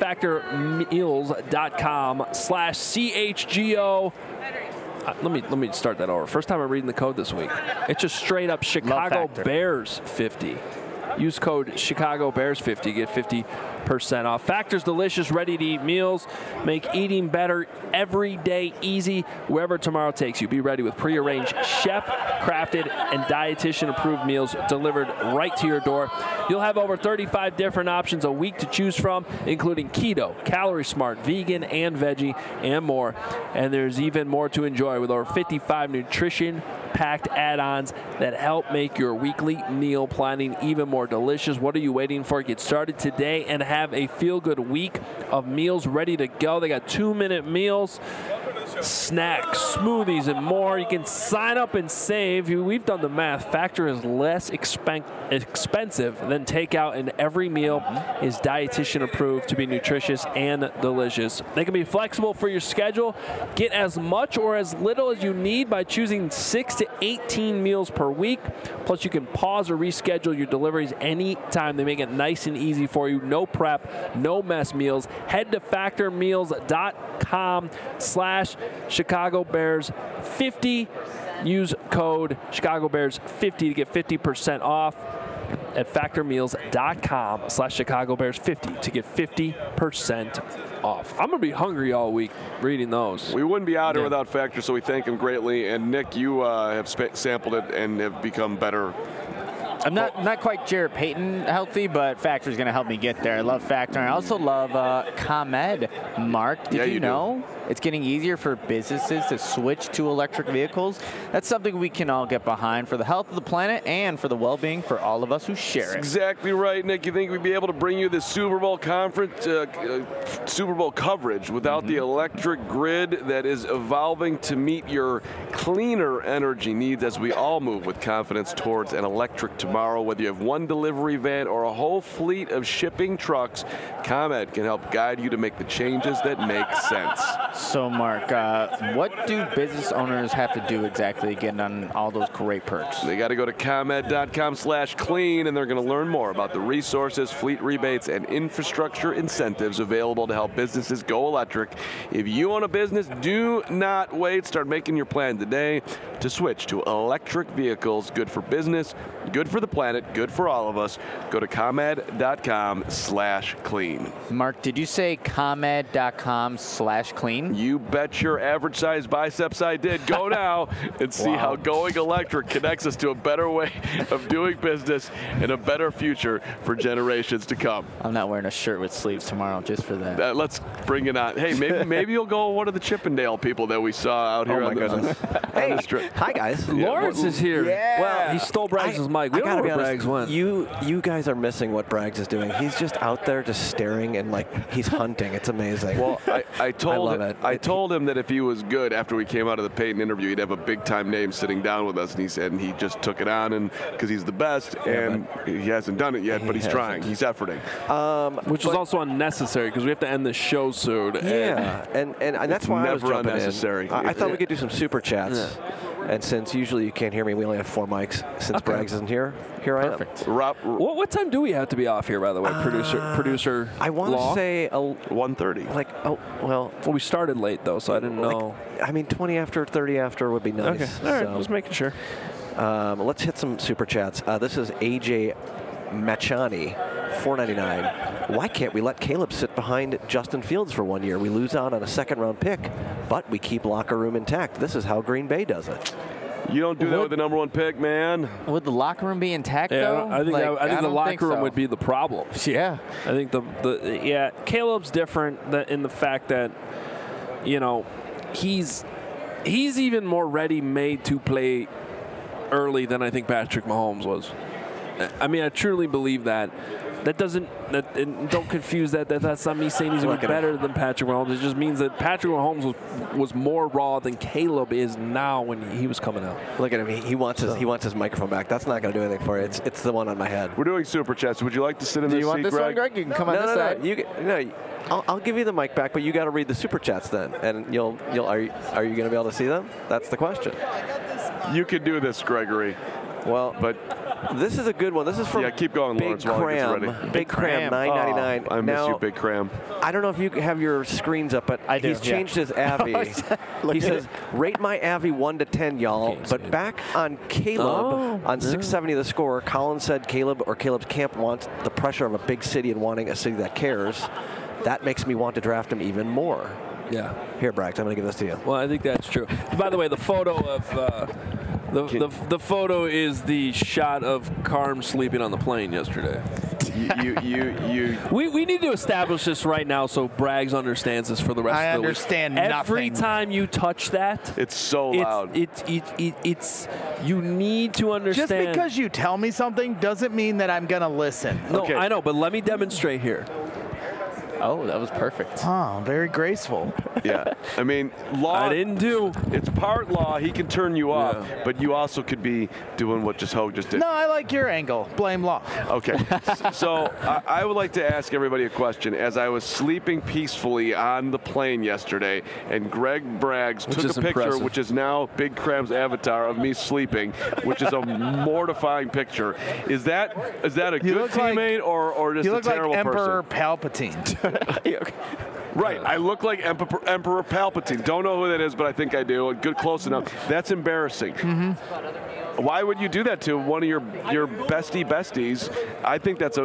factormeals.com/CHGO. Let me start that over. First time I'm reading the code this week. It's just straight up Chicago Bears 50. Use code Chicago Bears 50. Get 50% off. Factor's delicious, ready-to-eat meals. Make eating better every day easy wherever tomorrow takes you. Be ready with pre-arranged, chef-crafted, and dietitian-approved meals delivered right to your door. You'll have over 35 different options a week to choose from, including keto, calorie smart, vegan, and veggie, and more. And there's even more to enjoy with over 55 nutrition-packed add-ons that help make your weekly meal planning even more delicious. What are you waiting for? Get started today and have a feel-good week of meals ready to go. They got 2-minute meals, snacks, smoothies, and more. You can sign up and save. We've done the math. Factor is less expensive than takeout, and every meal is dietitian approved to be nutritious and delicious. They can be flexible for your schedule. Get as much or as little as you need by choosing 6 to 18 meals per week. Plus, you can pause or reschedule your deliveries anytime. They make it nice and easy for you. No prep, no mess meals. Head to factormeals.com/Chicago Bears 50. Use code Chicago Bears 50 to get 50% off at factormeals.com/Chicago Bears 50 to get 50% off. I'm going to be hungry all week reading those. We wouldn't be out here without Factor, so we thank him greatly. And Nick, you have sampled it and have become better. I'm not quite Jared Payton healthy, but Factor's going to help me get there. I love Factor. I also love ComEd, Mark. Did you know it's getting easier for businesses to switch to electric vehicles? That's something we can all get behind for the health of the planet and for the well-being for all of us who share it. Exactly right, Nick. You think we'd be able to bring you the Super Bowl Super Bowl coverage without the electric grid that is evolving to meet your cleaner energy needs as we all move with confidence towards an electric tomorrow? Whether you have one delivery van or a whole fleet of shipping trucks, ComEd can help guide you to make the changes that make sense. So, Mark, what do business owners have to do exactly to get on all those great perks? They got to go to ComEd.com/clean, and they're going to learn more about the resources, fleet rebates, and infrastructure incentives available to help businesses go electric. If you own a business, do not wait. Start making your plan today to switch to electric vehicles. Good for business, good for for the planet, good for all of us. Go to ComEd.com/clean. Mark, did you say ComEd.com/clean? You bet your average size biceps I did. Go now and see how Going Electric connects us to a better way of doing business and a better future for generations to come. I'm not wearing a shirt with sleeves tomorrow just for that. Let's bring it on. Hey, maybe you'll go one of the Chippendale people that we saw out here on the strip. Hi, guys. Lawrence is here. Yeah. Well, he stole Braggs' mic. We don't know where Braggs went. You guys are missing what Braggs is doing. He's just out there just staring and like he's hunting. It's amazing. Well, I told I told him that if he was good after we came out of the Peyton interview, he'd have a big time name sitting down with us, and he said he just took it on and because he's the best, and he hasn't done it yet, but he's trying. He's efforting. Which is also unnecessary because we have to end the show soon. Yeah, and that's why I was never jumping unnecessary. in. I thought we could do some super chats. Yeah. And since usually you can't hear me, we only have 4 mics. Since Braggs isn't here I am. Rob, what time do we have to be off here, by the way, producer? I want to say 1:30. Well, we started late though, so I didn't know. 20 after, 30 after would be nice. Okay, all right, just making sure. Let's hit some super chats. This is AJ Machani, $4.99. Why can't we let Caleb sit behind Justin Fields for 1 year? We lose out on a second-round pick, but we keep locker room intact. This is how Green Bay does it. You don't do that with the number 1 pick, man. Would the locker room be intact, though? I think the locker room would be the problem. Yeah. I think Caleb's different in the fact that, he's even more ready-made to play early than I think Patrick Mahomes was. I mean, I truly believe that. Don't confuse that. That's not me saying he's even better than Patrick Mahomes. It just means that Patrick Mahomes was more raw than Caleb is now when he was coming out. Look at him. He wants his microphone back. That's not going to do anything for you. It's the one on my head. We're doing super chats. Would you like to sit in this seat, Greg? Do you want this one, Greg? You can come on this side. I'll give you the mic back, but you got to read the super chats then, and are you going to be able to see them? That's the question. You could do this, Gregory. Well, but this is a good one. This is from keep going, Big Lawrence, Cram. Big Cram, $9.99. I miss you, Big Cram. I don't know if you have your screens up, but he's changed his Avi. He says, rate my Avi 1 to 10, y'all. But back on Caleb, on 670 The Score, Colin said Caleb's camp wants the pressure of a big city and wanting a city that cares. That makes me want to draft him even more. Yeah. Here, Braggs, I'm going to give this to you. Well, I think that's true. By the way, the photo of the photo is the shot of Carm sleeping on the plane yesterday. We need to establish this right now so Braggs understands this for the rest of the week. I understand nothing. Every time you touch that, it's so loud. It's you need to understand. Just because you tell me something doesn't mean that I'm going to listen. No, I know, but let me demonstrate here. Oh, that was perfect. Oh, very graceful. Yeah. I mean, law. I didn't do. It's part law. He can turn you off, but you also could be doing what Hogue just did. No, I like your angle. Blame law. Okay. So I would like to ask everybody a question. As I was sleeping peacefully on the plane yesterday, and Greg Braggs took a picture, impressive. which is now Big Cram's avatar of me sleeping, which is a mortifying picture. Is that a good teammate or just a terrible person? You look like Emperor person? Palpatine. Right, I look like Emperor Palpatine. Don't know who that is, but I think I do. Good, close enough. That's embarrassing. Mm-hmm. Why would you do that to one of your besties? I think that's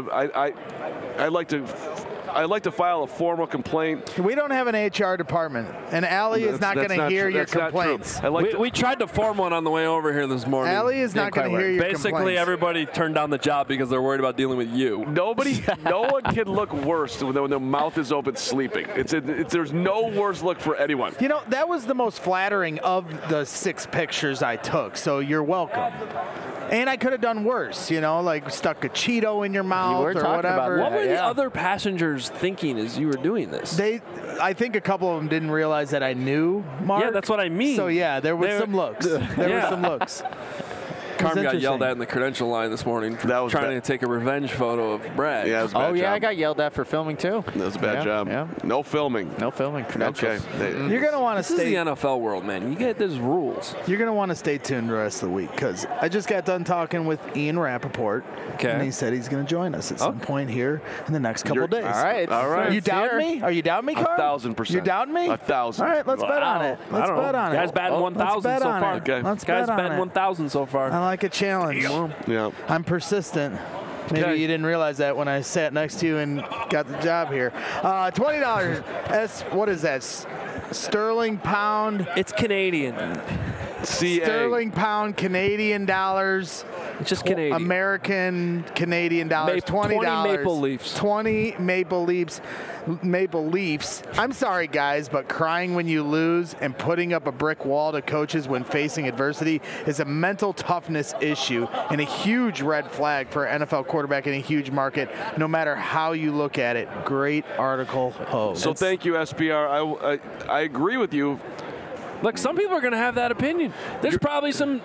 I'd like to file a formal complaint. We don't have an HR department, and Allie is not going to hear your complaints. We tried to form one on the way over here this morning. Allie is not going to hear your complaints. Basically, everybody turned down the job because they're worried about dealing with you. No one can look worse when their mouth is open sleeping. There's no worse look for anyone. That was the most flattering of the 6 pictures I took, so you're welcome. And I could have done worse, like stuck a Cheeto in your mouth or whatever. What were the other passengers thinking as you were doing this? I think a couple of them didn't realize that I knew Mark. Yeah, that's what I mean. So, there were some looks. There were some looks. Carm got yelled at in the credential line this morning for trying to take a revenge photo of Brad. Yeah, it was a bad job. I got yelled at for filming too. That was a bad job. Yeah. No filming. Credentials. Okay. You're going to want to stay. This is the NFL world, man. There's rules. You're going to want to stay tuned the rest of the week because I just got done talking with Ian Rappaport. Okay. And he said he's going to join us at some point here in the next couple of days. All right. You doubting me? Are you doubting me, Carl? 1,000%. You doubting me? 1,000. All right, let's bet on it. Let's bet on it. Guys batting 1,000 so far. Okay. Let's Guys bet on batting it. 1,000 so far. I like a challenge. Yeah. I'm persistent. Maybe you didn't realize that when I sat next to you and got the job here. $20. What is that? Sterling pound. It's Canadian. Sterling pound, Canadian dollars. It's just Canadian. American Canadian dollars. $20. 20 Maple Leafs. 20 Maple Leafs. Maple Leafs. I'm sorry, guys, but crying when you lose and putting up a brick wall to coaches when facing adversity is a mental toughness issue and a huge red flag for an NFL quarterback in a huge market, no matter how you look at it. Great article, Ho. So thank you, SBR. I agree with you. Look, some people are going to have that opinion. There's probably some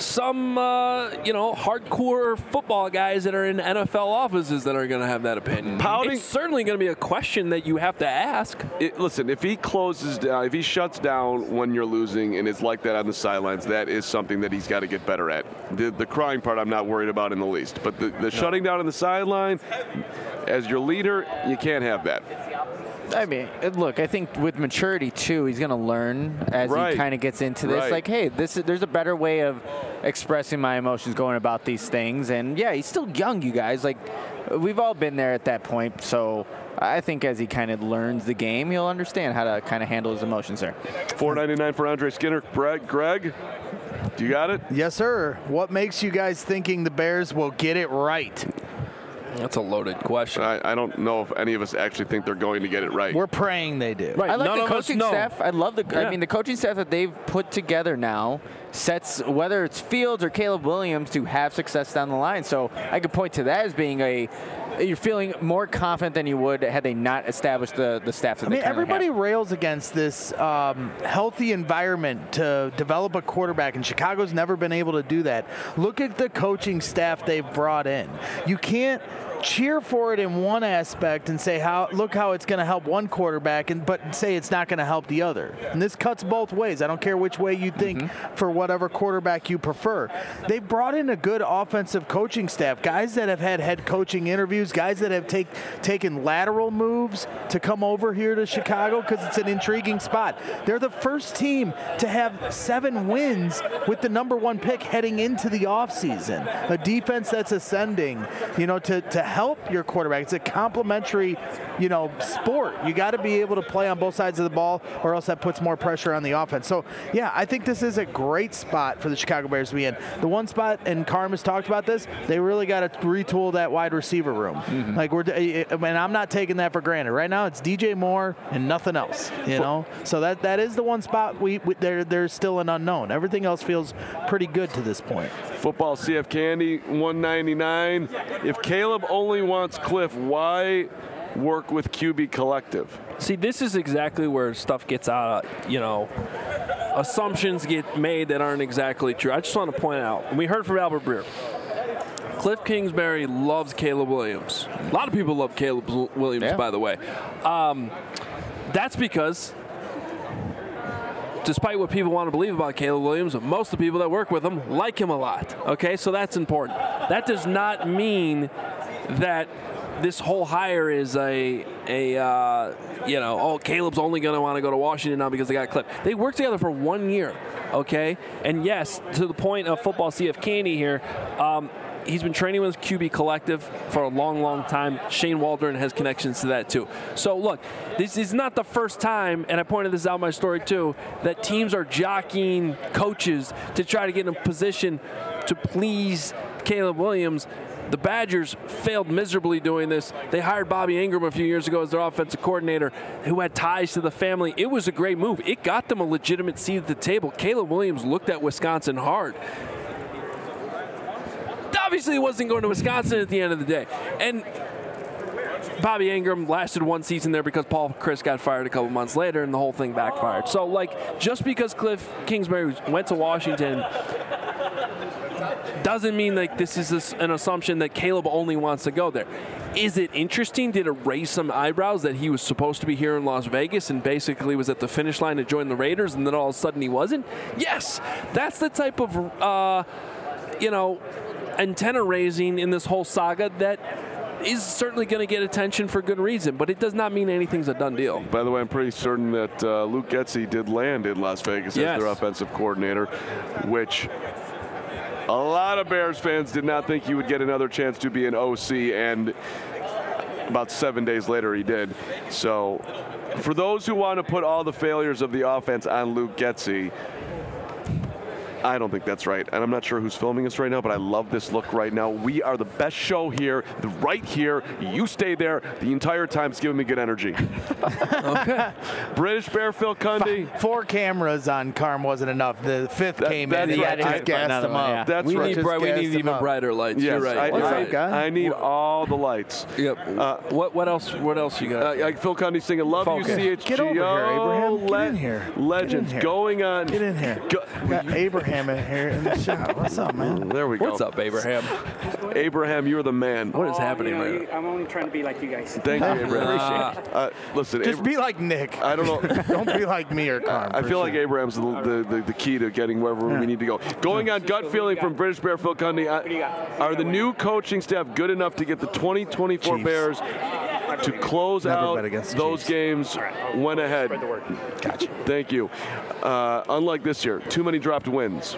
hardcore football guys that are in NFL offices that are going to have that opinion. It's certainly going to be a question that you have to ask. Listen, if he closes down, if he shuts down when you're losing and is like that on the sidelines, that is something that he's got to get better at. The crying part I'm not worried about in the least. But the shutting down on the sideline, as your leader, you can't have that. I mean, look, I think with maturity, too, he's going to learn as he kind of gets into this. Like, hey, there's a better way of expressing my emotions going about these things. And, yeah, he's still young, you guys. Like, we've all been there at that point. So I think as he kind of learns the game, he'll understand how to kind of handle his emotions there. $4.99 for Andre Skinner. Greg, do you got it? Yes, sir. What makes you guys thinking the Bears will get it right? That's a loaded question. I don't know if any of us actually think they're going to get it right. We're praying they do. Right. I like the coaching staff. I love I mean, the coaching staff that they've put together now sets, whether it's Fields or Caleb Williams, to have success down the line. So I could point to that as being you're feeling more confident than you would had they not established the staff that they currently everybody have. rails against this healthy environment to develop a quarterback, and Chicago's never been able to do that. Look at the coaching staff they've brought in. You can't cheer for it in one aspect and say look how it's going to help one quarterback, but say it's not going to help the other. And this cuts both ways. I don't care which way you think for whatever quarterback you prefer. They've brought in a good offensive coaching staff, guys that have had head coaching interviews, guys that have taken lateral moves to come over here to Chicago because it's an intriguing spot. They're the first team to have 7 wins with the #1 pick heading into the offseason. A defense that's ascending, to help your quarterback. It's a complementary, sport. You got to be able to play on both sides of the ball, or else that puts more pressure on the offense. So, yeah, I think this is a great spot for the Chicago Bears to be in. The one spot, and Carm has talked about this, they really got to retool that wide receiver room. And I'm not taking that for granted. Right now, it's DJ Moore and nothing else. So that is the one spot there's still an unknown. Everything else feels pretty good to this point. Football CF Candy, $1.99. If Caleb only wants Cliff, why work with QB Collective? See, this is exactly where stuff gets out of, assumptions get made that aren't exactly true. I just want to point out, and we heard from Albert Breer, Cliff Kingsbury loves Caleb Williams. A lot of people love Caleb Williams, by the way. That's because, despite what people want to believe about Caleb Williams, most of the people that work with him like him a lot. Okay, so that's important. That does not mean that this whole hire is Caleb's only going to want to go to Washington now because they got Cliff. They worked together for 1 year, okay? And yes, to the point of Football CF Candy here, he's been training with QB Collective for a long, long time. Shane Waldron has connections to that, too. So, look, this is not the first time, and I pointed this out in my story, too, that teams are jockeying coaches to try to get in a position to please Caleb Williams. The Badgers failed miserably doing this. They hired Bobby Ingram a few years ago as their offensive coordinator, who had ties to the family. It was a great move. It got them a legitimate seat at the table. Caleb Williams looked at Wisconsin hard. Obviously, he wasn't going to Wisconsin at the end of the day. And Bobby Ingram lasted 1 season there because Paul Chryst got fired a couple months later, and the whole thing backfired. So, just because Cliff Kingsbury went to Washington doesn't mean this is an assumption that Caleb only wants to go there. Is it interesting? Did it raise some eyebrows that he was supposed to be here in Las Vegas and basically was at the finish line to join the Raiders, and then all of a sudden he wasn't? Yes. That's the type of, antenna raising in this whole saga that is certainly going to get attention for good reason, but it does not mean anything's a done deal. By the way, I'm pretty certain that Luke Getsy did land in Las Vegas as their offensive coordinator, which A lot of Bears fans did not think he would get another chance to be an OC, and about 7 days later he did. So for those who want to put all the failures of the offense on Luke Getsy, I don't think that's right. And I'm not sure who's filming us right now, but I love this look right now. We are the best show here, right here. You stay there the entire time. It's giving me good energy. Okay. British Bear Phil Cundy. 4 cameras on Carm wasn't enough. The 5th came in. That's He right. just gassed them up. Yeah. That's We right. need even brighter lights. Yes, You're right. What's up, guy? I need all the lights. Yep. What else you got? Phil Cundy singing "Love You, Focus. CHGO." Get over here, Abraham. Get in here. Legends Get in here. going on. Get in here. Got Abraham in here in the shot. What's up, man? There we go. What's up, Abraham? Abraham, you're the man. What is happening right now? I'm only trying to be like you guys. Thank you, Abraham. Listen, Just be like Nick. I don't know. Don't be like me or Carm. I for feel like sure. Abraham's the key to getting wherever we need to go. Going on gut feeling from British Bear Phil Cundy, are the new coaching staff good enough to get the 2024 Chiefs. Bears to close Never out bet against the those Chiefs. games when ahead? Gotcha. Thank you. Unlike this year, too many dropped wins.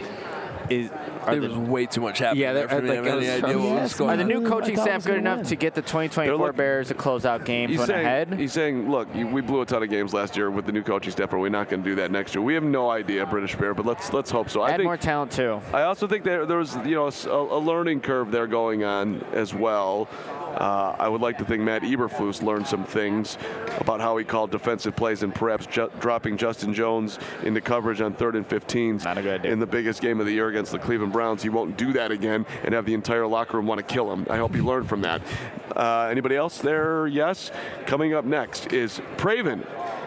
There was way too much happening. Yeah, there for me to have any idea what was going Are the on. new coaching I thought staff I was good gonna enough win. to get the 2024 They're look- Bears to close out games He's when saying, ahead? he's saying, look, we blew a ton of games last year with the new coaching staff. Are we not going to do that next year? We have no idea, British Bear, but let's hope so. Add more talent too. I also think there was a learning curve there going on as well. I would like to think Matt Eberflus learned some things about how he called defensive plays and perhaps dropping Justin Jones into coverage on 3rd and 15s Not a good idea. in the biggest game of the year against the Cleveland Browns. He won't do that again and have the entire locker room want to kill him. I hope he learned from that. Anybody else there? Yes. Coming up next is Praven.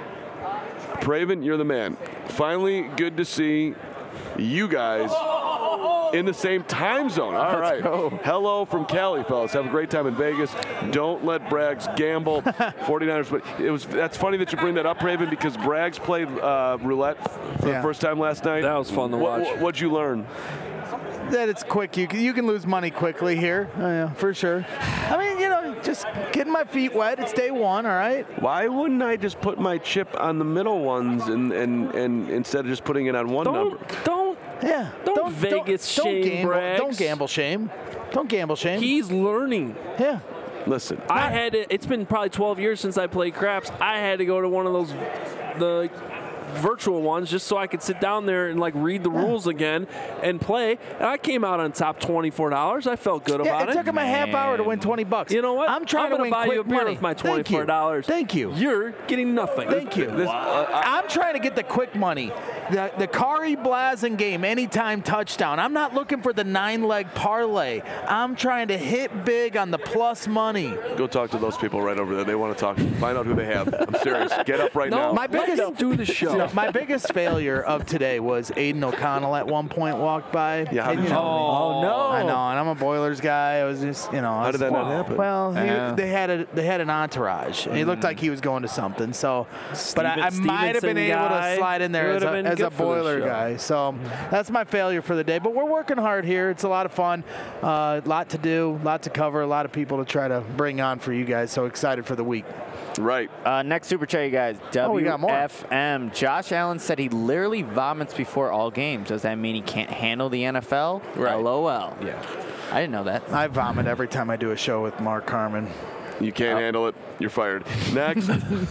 Praven, you're the man. Finally, good to see you guys in the same time zone. All right. Hello from Cali, fellas. Have a great time in Vegas. Don't let Braggs gamble. 49ers. But that's funny that you bring that up, Praven, because Braggs played roulette for the first time last night. That was fun to watch. What'd you learn? That it's quick. You can lose money quickly here. Oh, yeah, for sure. I mean, just getting my feet wet. It's day one, all right? Why wouldn't I just put my chip on the middle ones and instead of just putting it on one number? Don't Vegas shame gamble. Braggs. Don't gamble shame. Don't gamble shame. He's learning. Yeah. Listen. It's been probably 12 years since I played craps. I had to go to one of those the virtual ones just so I could sit down there and read the rules again and play. And I came out on top $24. I felt good about it took him a half hour to win $20. You know what? I'm trying to gonna win buy quick you a beer money. with my Thank you. $24. Thank you. You're getting nothing. Thank you. I'm trying to get the quick money. The Kari Blasen game, anytime touchdown. I'm not looking for the 9-leg parlay. I'm trying to hit big on the plus money. Go talk to those people right over there. They want to talk. Find out who they have. I'm serious. Get up right now. My biggest Let him do the show. My biggest failure of today was Aiden O'Connell at one point walked by. Yeah, how did you Oh no! I know, and I'm a Boilers guy. I was just, How did that not happen? Well, they had an entourage. And he looked like he was going to something. So, but I might have been able to slide in there as a Boiler guy. So that's my failure for the day. But we're working hard here. It's a lot of fun, a lot to do, a lot to cover, a lot of people to try to bring on for you guys. So excited for the week. Right. Next super chat, you guys. we got more. WFM. Josh Allen said he literally vomits before all games. Does that mean he can't handle the NFL? Right. LOL. Yeah. I didn't know that. I vomit every time I do a show with Mark Carman. You can't handle it. You're fired. Next.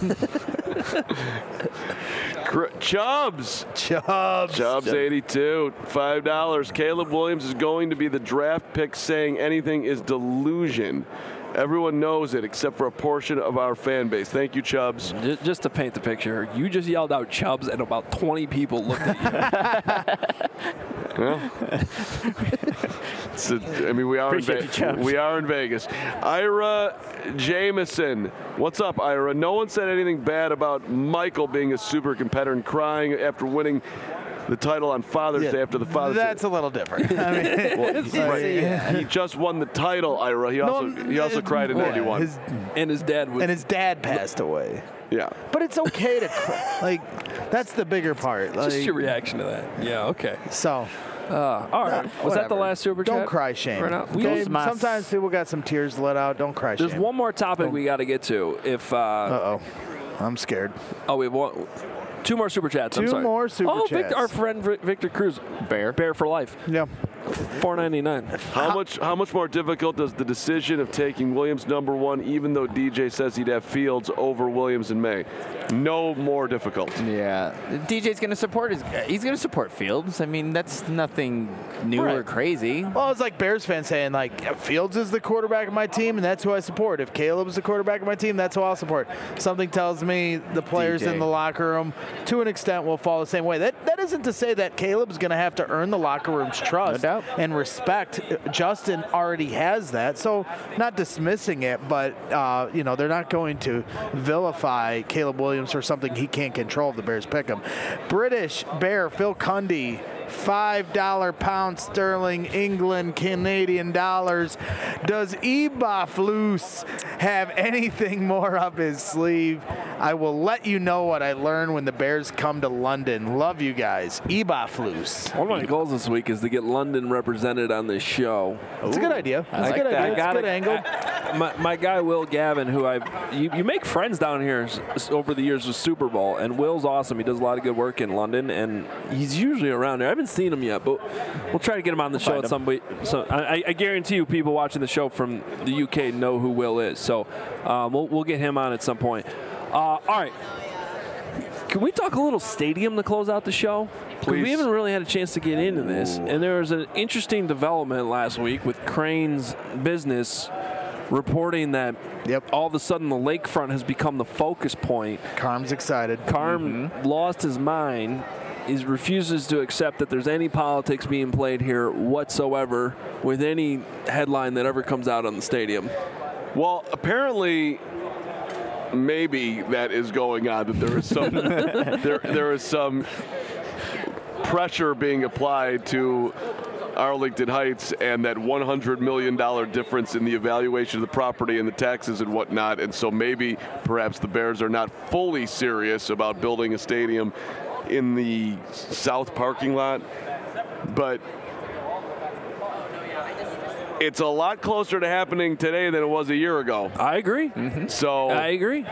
Chubbs. Chubbs 82. $5. Caleb Williams is going to be the draft pick. Saying anything is delusion. Everyone knows it except for a portion of our fan base. Thank you, Chubbs. Just to paint the picture, you just yelled out Chubbs and about 20 people looked at you. Well, we are in Vegas. Ira Jameson. What's up, Ira? No one said anything bad about Michael being a super competitor and crying after winning the title on Father's Day after the Father's Day. That's a little different. I mean, He just won the title, Ira. He also cried in 91. And his dad passed away. Yeah. But it's okay to cry. That's the bigger part. Just your reaction to that. Yeah, okay. So. All right. Was that the last super chat? Don't cry shame. Right now? Okay? Sometimes people got some tears let out. Don't cry shame. There's one more topic we got to get to. Uh-oh. I'm scared. Oh, we have one. Two more super chats. I'm sorry. Two more super chats. Victor, our friend Victor Cruz. Bear for life. Yeah. $4.99. How much more difficult does the decision of taking Williams #1, even though DJ says he'd have Fields over Williams in May? No more difficult. Yeah, DJ's going to support he's going to support Fields. I mean, that's nothing new or crazy. Well, it's like Bears fans saying, like, Fields is the quarterback of my team, and that's who I support. If Caleb's the quarterback of my team, that's who I'll support. Something tells me the players in the locker room, to an extent, will fall the same way. That isn't to say that Caleb's going to have to earn the locker room's trust and respect. Justin already has that, so not dismissing it, but they're not going to vilify Caleb Williams for something he can't control if the Bears pick him. British Bear Phil Cundy, $5 pound sterling, England, Canadian dollars. Does Eberflus have anything more up his sleeve? I will let you know what I learn when the Bears come to London. Love you guys. Eberflus. One of my goals this week is to get London represented on this show. It's a good idea. It's a good idea. It's a good angle. My guy Will Gavin, who you make friends down here over the years with Super Bowl, and Will's awesome. He does a lot of good work in London, and he's usually around there. I haven't seen him yet, but we'll try to get him on the show at some point. So I guarantee you, people watching the show from the UK know who Will is. So we'll get him on at some point. All right. Can we talk a little stadium to close out the show? Because we haven't really had a chance to get into this. And there was an interesting development last week with Crane's Business reporting that all of a sudden the lakefront has become the focus point. Carm's excited. Carm lost his mind. He refuses to accept that there's any politics being played here whatsoever with any headline that ever comes out on the stadium. Well, apparently, maybe that is going on. That there is some there is some pressure being applied to Arlington Heights and that $100 million difference in the evaluation of the property and the taxes and whatnot. And so maybe perhaps the Bears are not fully serious about building a stadium in the south parking lot. But it's a lot closer to happening today than it was a year ago. I agree. Mm-hmm. So I agree.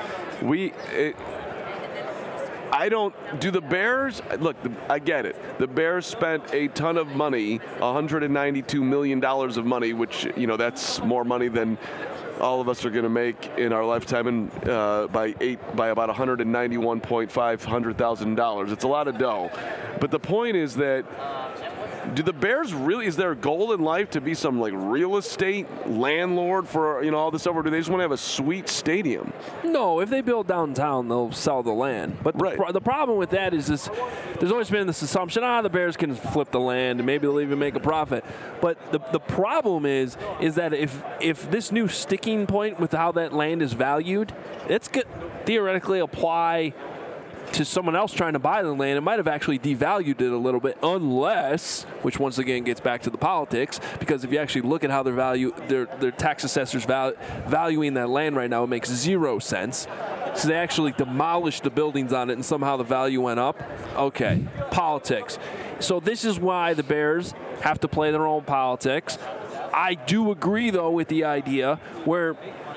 Do the Bears, look, I get it. The Bears spent a ton of money, $192 million of money, which, that's more money than all of us are going to make in our lifetime, and by about $191,500,000. It's a lot of dough. But the point is that, do the Bears really, is their goal in life to be some like real estate landlord for all this stuff, or do they just want to have a sweet stadium? No, if they build downtown, they'll sell the land. But the problem with that is this: there's always been this assumption, the Bears can flip the land and maybe they'll even make a profit. But the problem is that if this new sticking point with how that land is valued, it's could theoretically apply to someone else trying to buy the land. It might have actually devalued it a little bit, unless, which once again gets back to the politics, because if you actually look at how their tax assessors valuing that land right now, it makes 0 sense. So they actually demolished the buildings on it and somehow the value went up. Okay, politics. So this is why the Bears have to play their own politics. I do agree, though, with the idea where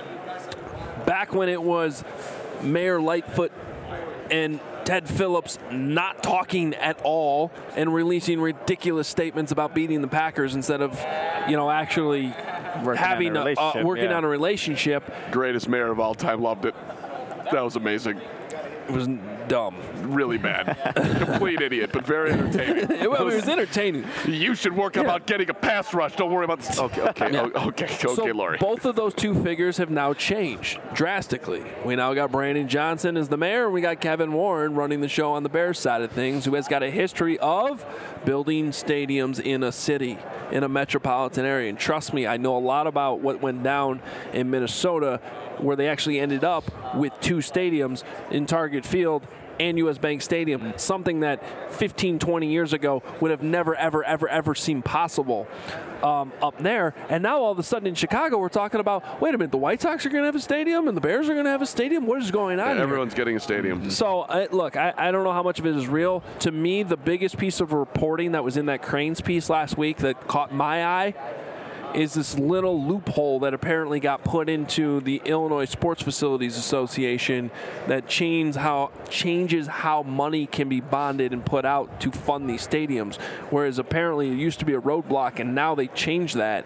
back when it was Mayor Lightfoot and Ted Phillips not talking at all and releasing ridiculous statements about beating the Packers instead of, actually working on a relationship. Greatest mayor of all time, loved it. That was amazing. It was dumb. Really bad. Complete idiot, but very entertaining. It was entertaining. You should work about getting a pass rush. Don't worry about this. Okay, Lori. Both of those two figures have now changed drastically. We now got Brandon Johnson as the mayor, and we got Kevin Warren running the show on the Bears side of things, who has got a history of building stadiums in a city, in a metropolitan area. And trust me, I know a lot about what went down in Minnesota, where they actually ended up with 2 stadiums in Target Field and U.S. Bank Stadium, something that 15, 20 years ago would have never, ever, ever, ever seemed possible up there. And now all of a sudden in Chicago, we're talking about, wait a minute, the White Sox are going to have a stadium and the Bears are going to have a stadium? What is going on here? Everyone's getting a stadium. So, look, I don't know how much of it is real. To me, the biggest piece of reporting that was in that Cranes piece last week that caught my eye is this little loophole that apparently got put into the Illinois Sports Facilities Association that changes how money can be bonded and put out to fund these stadiums, whereas apparently it used to be a roadblock, and now they changed that.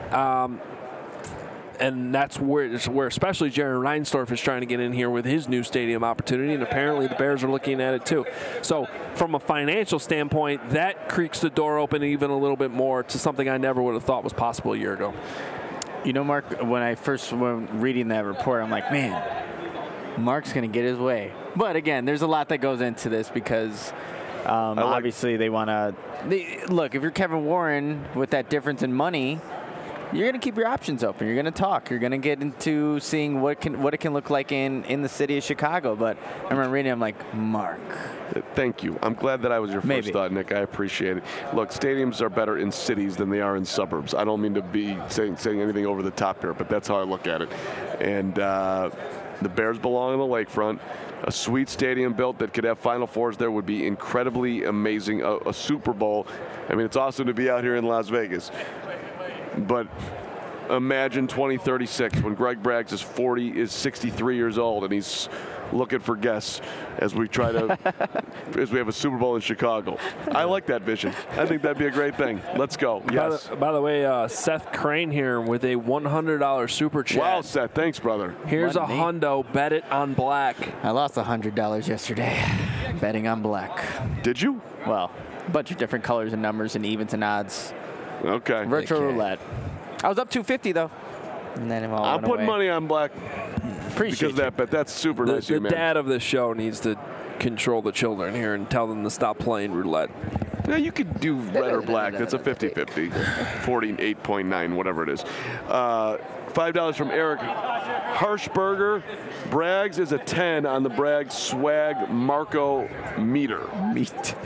And that's where especially Jaron Reinsdorf is trying to get in here with his new stadium opportunity, and apparently the Bears are looking at it too. So from a financial standpoint, that creaks the door open even a little bit more to something I never would have thought was possible a year ago. You know, Mark, when I first was reading that report, I'm like, man, Mark's going to get his way. But again, there's a lot that goes into this because obviously they want to look, if you're Kevin Warren with that difference in money, you're going to keep your options open. You're going to talk. You're going to get into seeing what it can look like in the city of Chicago. But I remember reading, I'm like, Mark. Thank you. I'm glad that I was your first thought, Nick. I appreciate it. Look, stadiums are better in cities than they are in suburbs. I don't mean to be saying anything over the top here, but that's how I look at it. And the Bears belong on the lakefront. A sweet stadium built that could have Final Fours there would be incredibly amazing. A Super Bowl. I mean, it's awesome to be out here in Las Vegas. But imagine 2036 when Greg Braggs is 63 years old and he's looking for guests as we as we have a Super Bowl in Chicago. I like that vision. I think that'd be a great thing. Let's go. Yes. By the way, Seth Crane here with a $100 super chat. Wow, Seth. Thanks, brother. Here's a hundo. Bet it on black. I lost $100 yesterday betting on black. Did you? Well, a bunch of different colors and numbers and evens and odds. Okay. Virtual roulette. I was up $250 though. And then I'm putting money on black. Appreciate because that, but that's super nice. The man. dad of this show needs to control the children here and tell them to stop playing roulette. Yeah, you could do red or black. That's a 50-50. 48.9, whatever it is. $5 from Eric Harshberger. Braggs is a 10 on the Braggs swag Marco meter. Meter.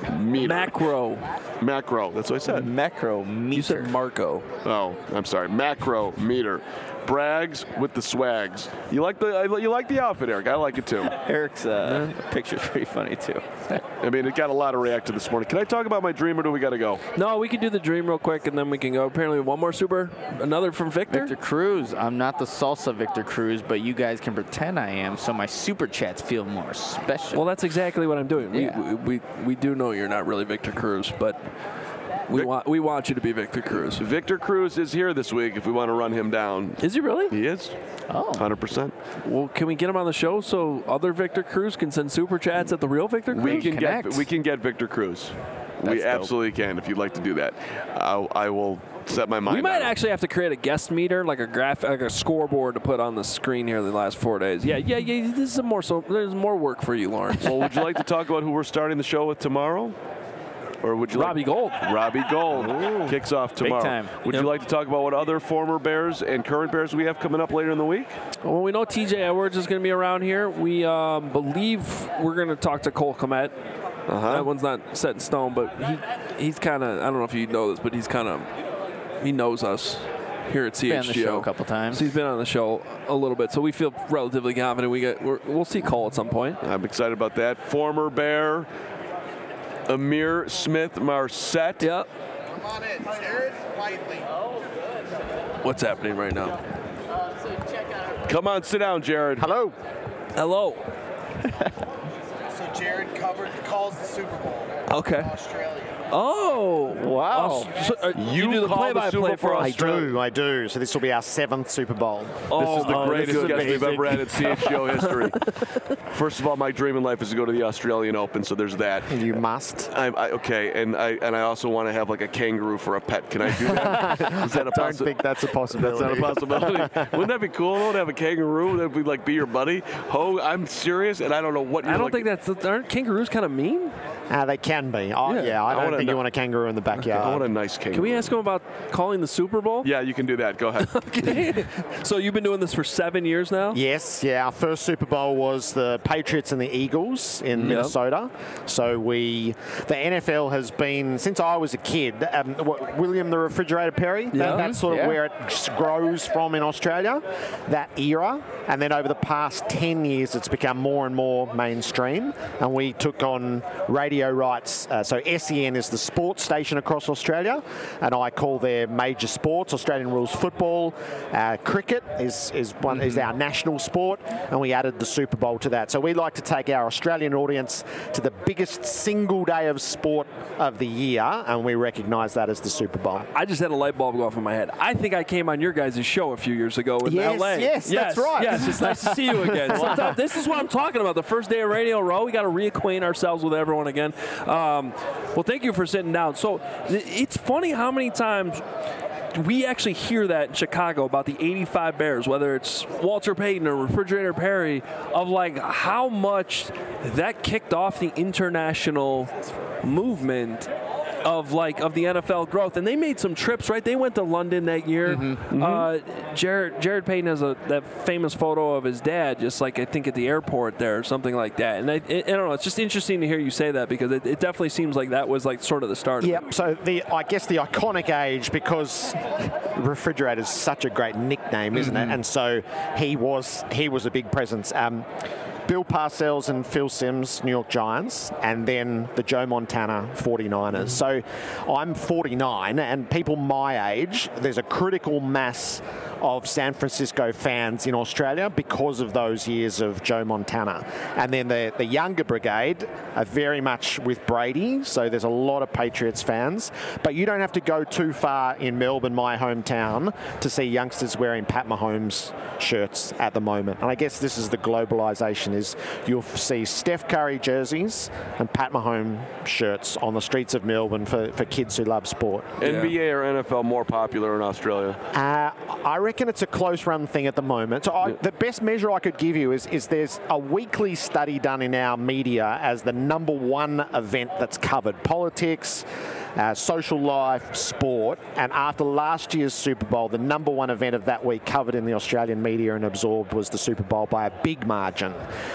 Macro. That's what I said. Macro meter. You said Marco. Oh, I'm sorry. Macro meter. Braggs with the swags. You like the outfit, Eric? I like it too. Eric's picture's pretty funny too. I mean, it got a lot of reaction this morning. Can I talk about my dream, or do we got to go? No, we can do the dream real quick, and then we can go. Apparently, one more super, another from Victor. Victor Cruz. I'm not the salsa Victor Cruz, but you guys can pretend I am, so my super chats feel more special. Well, that's exactly what I'm doing. Yeah. We do know you're not really Victor Cruz, but we want you to be Victor Cruz. Victor Cruz is here this week if we want to run him down. Is he really? He is. Oh. 100%. Well, can we get him on the show so other Victor Cruz can send super chats at the real Victor Cruz? We can get Victor Cruz. We absolutely can if you'd like to do that. I will set my mind. We might actually have to create a guest meter, like a scoreboard to put on the screen here the last 4 days. Yeah. This is there's more work for you, Lawrence. Well, would you like to talk about who we're starting the show with tomorrow? Or would you Robbie Gould. Robbie Gould kicks off tomorrow. Big time. Would you like to talk about what other former Bears and current Bears we have coming up later in the week? Well, we know TJ Edwards is going to be around here. We believe we're going to talk to Cole Kmet. That one's not set in stone, but he's kind of, I don't know if you know this, but he knows us here at CHGO. Been on the show a couple times. So he's been on the show a little bit, so we feel relatively confident we'll see Cole at some point. I'm excited about that. Former Bear Amir Smith-Marset. Yep. Come on in, Jared Whiteley. What's happening right now? Come on, sit down, Jared. Hello. So Jared calls the Super Bowl. Okay. Australia. Oh, wow. You do the play-by-play for Australia. I do. So this will be our 7th Super Bowl. This is the greatest guest we've ever had in CHGO history. First of all, my dream in life is to go to the Australian Open, so there's that. You must. Okay, and I also want to have like a kangaroo for a pet. Can I do that? Is that a I don't think that's a possibility. That's not a possibility. Wouldn't that be cool though, to have a kangaroo that would be your buddy? I'm serious, and I don't know what. I don't think aren't kangaroos kind of mean? They can be. I don't think you want a kangaroo in the backyard. I want a nice kangaroo. Can we ask him about calling the Super Bowl? Yeah, you can do that. Go ahead. Okay. So you've been doing this for 7 years now? Yes. Yeah. Our first Super Bowl was the Patriots and the Eagles in Minnesota. So the NFL has been, since I was a kid, William the Refrigerator Perry, that's sort of where it grows from in Australia, that era. And then over the past 10 years, it's become more and more mainstream. And we took on radio radio rights. So SEN is the sports station across Australia, and I call their major sports. Australian rules football, cricket is our national sport, and we added the Super Bowl to that. So we like to take our Australian audience to the biggest single day of sport of the year, and we recognise that as the Super Bowl. I just had a light bulb go off in my head. I think I came on your guys' show a few years ago in LA. Yes, that's right. Yes, it's nice to see you again. Sometimes, this is what I'm talking about. The first day of Radio Row, we got to reacquaint ourselves with everyone again. Well, thank you for sitting down. So it's funny how many times we actually hear that in Chicago about the 85 Bears, whether it's Walter Payton or Refrigerator Perry, of like how much that kicked off the international movement of the NFL growth. And they made some trips, right? They went to London that year. Jared Payton has that famous photo of his dad, just like I think at the airport there or something like that. And I don't know, it's just interesting to hear you say that, because it definitely seems like that was like sort of the start of it. So I guess the iconic age, because Refrigerator is such a great nickname, isn't it? And so he was a big presence. Bill Parcells and Phil Simms, New York Giants, and then the Joe Montana 49ers. So I'm 49, and people my age, there's a critical mass of San Francisco fans in Australia because of those years of Joe Montana. And then the younger brigade are very much with Brady, so there's a lot of Patriots fans. But you don't have to go too far in Melbourne, my hometown, to see youngsters wearing Pat Mahomes shirts at the moment. And I guess this is the globalization, is you'll see Steph Curry jerseys and Pat Mahomes shirts on the streets of Melbourne for kids who love sport. NBA or NFL more popular in Australia? I reckon it's a close run thing at the moment. So the best measure I could give you is there's a weekly study done in our media as the number one event that's covered. Politics, social life, sport, and after last year's Super Bowl, the number one event of that week covered in the Australian media and absorbed was the Super Bowl by a big margin.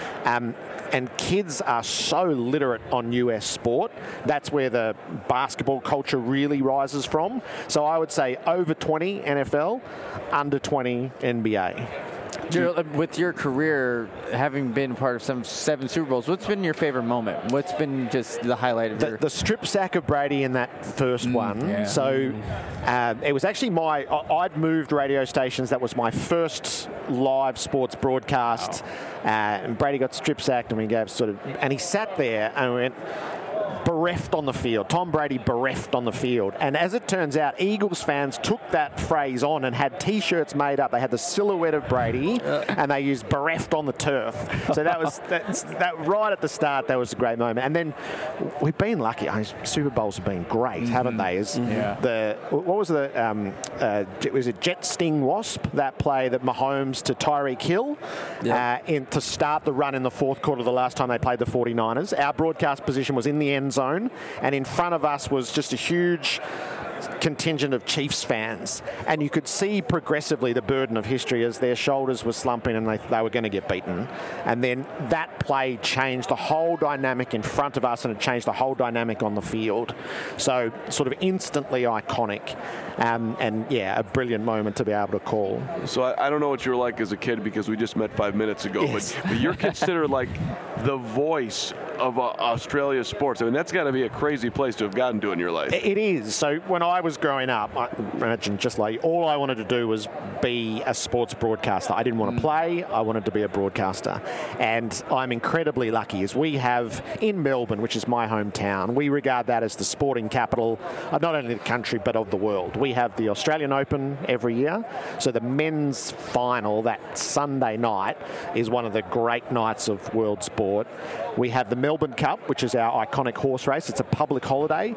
And kids are so literate on US sport. That's where the basketball culture really rises from. So I would say over 20 NFL, under 20 NBA. With your career, having been part of seven Super Bowls, what's been your favorite moment? What's been just the highlight of the strip sack of Brady in that first one. Yeah. So it was actually I'd moved radio stations. That was my first live sports broadcast. Wow. And Brady got strip sacked, and we gave and he sat there and went, bereft on the field. Tom Brady bereft on the field. And as it turns out, Eagles fans took that phrase on and had T-shirts made up. They had the silhouette of Brady, and they used bereft on the turf. So that right at the start, that was a great moment. And then we've been lucky. Super Bowls have been great, haven't they? Was it Jet Sting Wasp, that play that Mahomes to Tyreek Hill to start the run in the fourth quarter the last time they played the 49ers. Our broadcast position was in the end zone, and in front of us was just a huge contingent of Chiefs fans, and you could see progressively the burden of history as their shoulders were slumping and they were going to get beaten. And then that play changed the whole dynamic in front of us, and it changed the whole dynamic on the field. So sort of instantly iconic, and a brilliant moment to be able to call. So I don't know what you were like as a kid, because we just met 5 minutes ago, yes. but you're considered like the voice of Australia sports. I mean, that's got to be a crazy place to have gotten to in your life. It is. So when I was growing up, I imagine just like all I wanted to do was be a sports broadcaster. I didn't want to play. I wanted to be a broadcaster. And I'm incredibly lucky, as we have in Melbourne, which is my hometown, we regard that as the sporting capital of not only the country but of the world. We have the Australian Open every year. So the men's final that Sunday night is one of the great nights of world sport. We have the Melbourne Cup, which is our iconic horse race. It's a public holiday.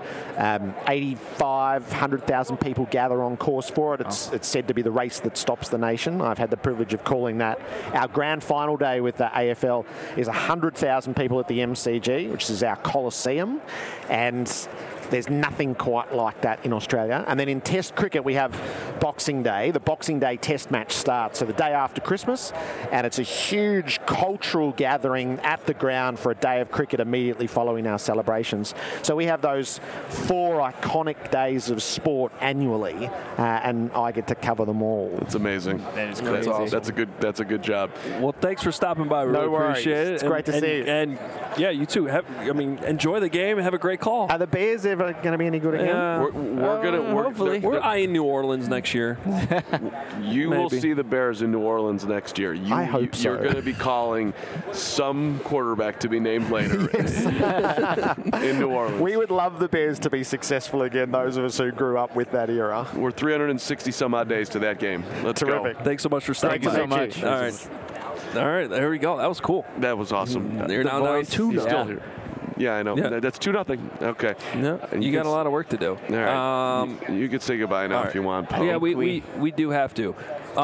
100,000 people gather on course for it. It's said to be the race that stops the nation. I've had the privilege of calling that. Our grand final day with the AFL is 100,000 people at the MCG, which is our Coliseum. And There's nothing quite like that in Australia. And then in Test cricket, we have Boxing Day. The Boxing Day Test match starts, so the day after Christmas, and it's a huge cultural gathering at the ground for a day of cricket immediately following our celebrations. So we have those 4 iconic days of sport annually, and I get to cover them all. That's amazing. That is That's crazy. awesome. That's a good job. Well, thanks for stopping by. We No really worries. appreciate it. It's great to see you. And yeah, you too. Enjoy the game and have a great call. Are the Bears ever going to be any good again? We're eyeing New Orleans next year. You will Maybe. see the Bears in New Orleans next year. I hope so. You're going to be calling some quarterback to be named later in New Orleans. We would love the Bears to be successful again, those of us who grew up with that era. We're 360 some odd days to that game. Let's Terrific. go. Thanks so much for stopping Thank you by. so much. All right, there we go. That was cool. That was awesome. You're now down 2-0. He's still here. Yeah, I know. Yeah. That's 2-0. Okay. Yeah, And you got can a lot of work to do. All right. You can say goodbye now all if you want. Yeah, we do have to.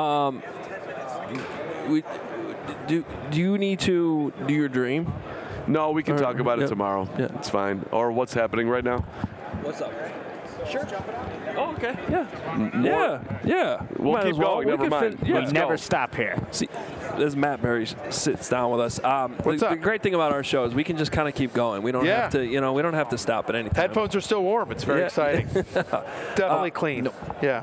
Do you need to do your dream? No, we can talk about it tomorrow. Yeah. It's fine. Or what's happening right now? What's up? Sure. Oh, okay. Yeah. Yeah. We'll Might keep as well. going. We Never can mind. yeah. Let's Never go. stop here. See, as Matt Berry sits down with us, the great thing about our show is we can just kind of keep going. We don't have to, we don't have to stop at any time. Headphones are still warm. It's very exciting. Definitely clean. no. Yeah.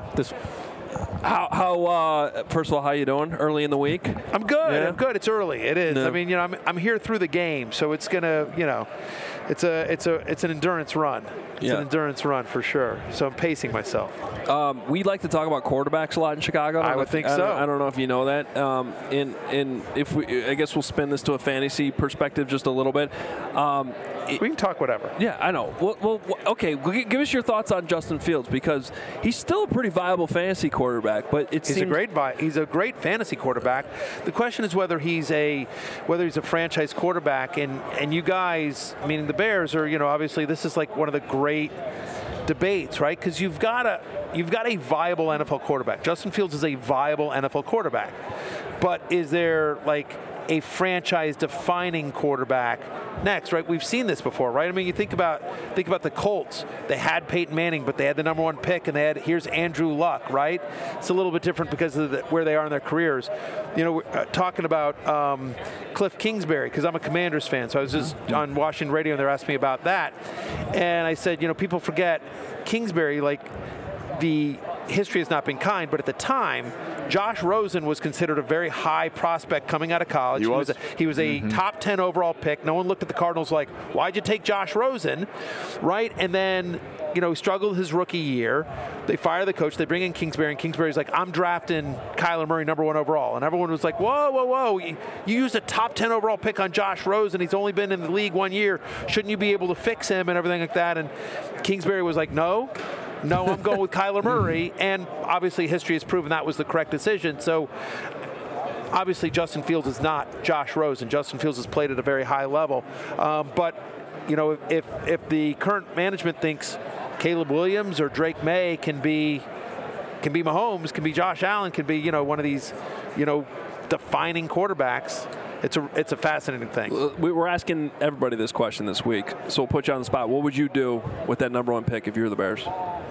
How first of all, how you doing? Early in the week? I'm good. Yeah. I'm good. It's early. It is. Yeah. I mean, I'm here through the game, so it's gonna, it's an endurance run. It's an endurance run for sure. So I'm pacing myself. We like to talk about quarterbacks a lot in Chicago. I would think so. I don't know if you know that. And if I guess we'll spin this to a fantasy perspective just a little bit. We can talk whatever. Yeah, I know. Well, okay. Give us your thoughts on Justin Fields, because he's still a pretty viable fantasy quarterback, but He's a great fantasy quarterback. The question is whether he's a franchise quarterback. And you guys, meaning the Bears, are obviously this is like one of the great debates, right? Because you've got a viable NFL quarterback. Justin Fields is a viable NFL quarterback, but is there like a franchise-defining quarterback next, right? We've seen this before, right? I mean, you think about the Colts. They had Peyton Manning, but they had the number 1 pick, and here's Andrew Luck, right? It's a little bit different because of where they are in their careers. We're talking about Cliff Kingsbury, because I'm a Commanders fan, so I was just on Washington radio, and they're asking me about that, and I said, people forget Kingsbury, like the history has not been kind, but at the time, Josh Rosen was considered a very high prospect coming out of college. He was a top 10 overall pick. No one looked at the Cardinals like, why'd you take Josh Rosen, right? And then, he struggled his rookie year. They fire the coach. They bring in Kingsbury, and Kingsbury's like, I'm drafting Kyler Murray number 1 overall. And everyone was like, whoa. You used a top 10 overall pick on Josh Rosen. He's only been in the league 1 year. Shouldn't you be able to fix him and everything like that? And Kingsbury was like, No, I'm going with Kyler Murray, and obviously history has proven that was the correct decision. So obviously Justin Fields is not Josh Rosen. Justin Fields has played at a very high level. But if the current management thinks Caleb Williams or Drake May can be Mahomes, can be Josh Allen, can be one of these defining quarterbacks, it's a fascinating thing. We were asking everybody this question this week, so we'll put you on the spot. What would you do with that number 1 pick if you were the Bears?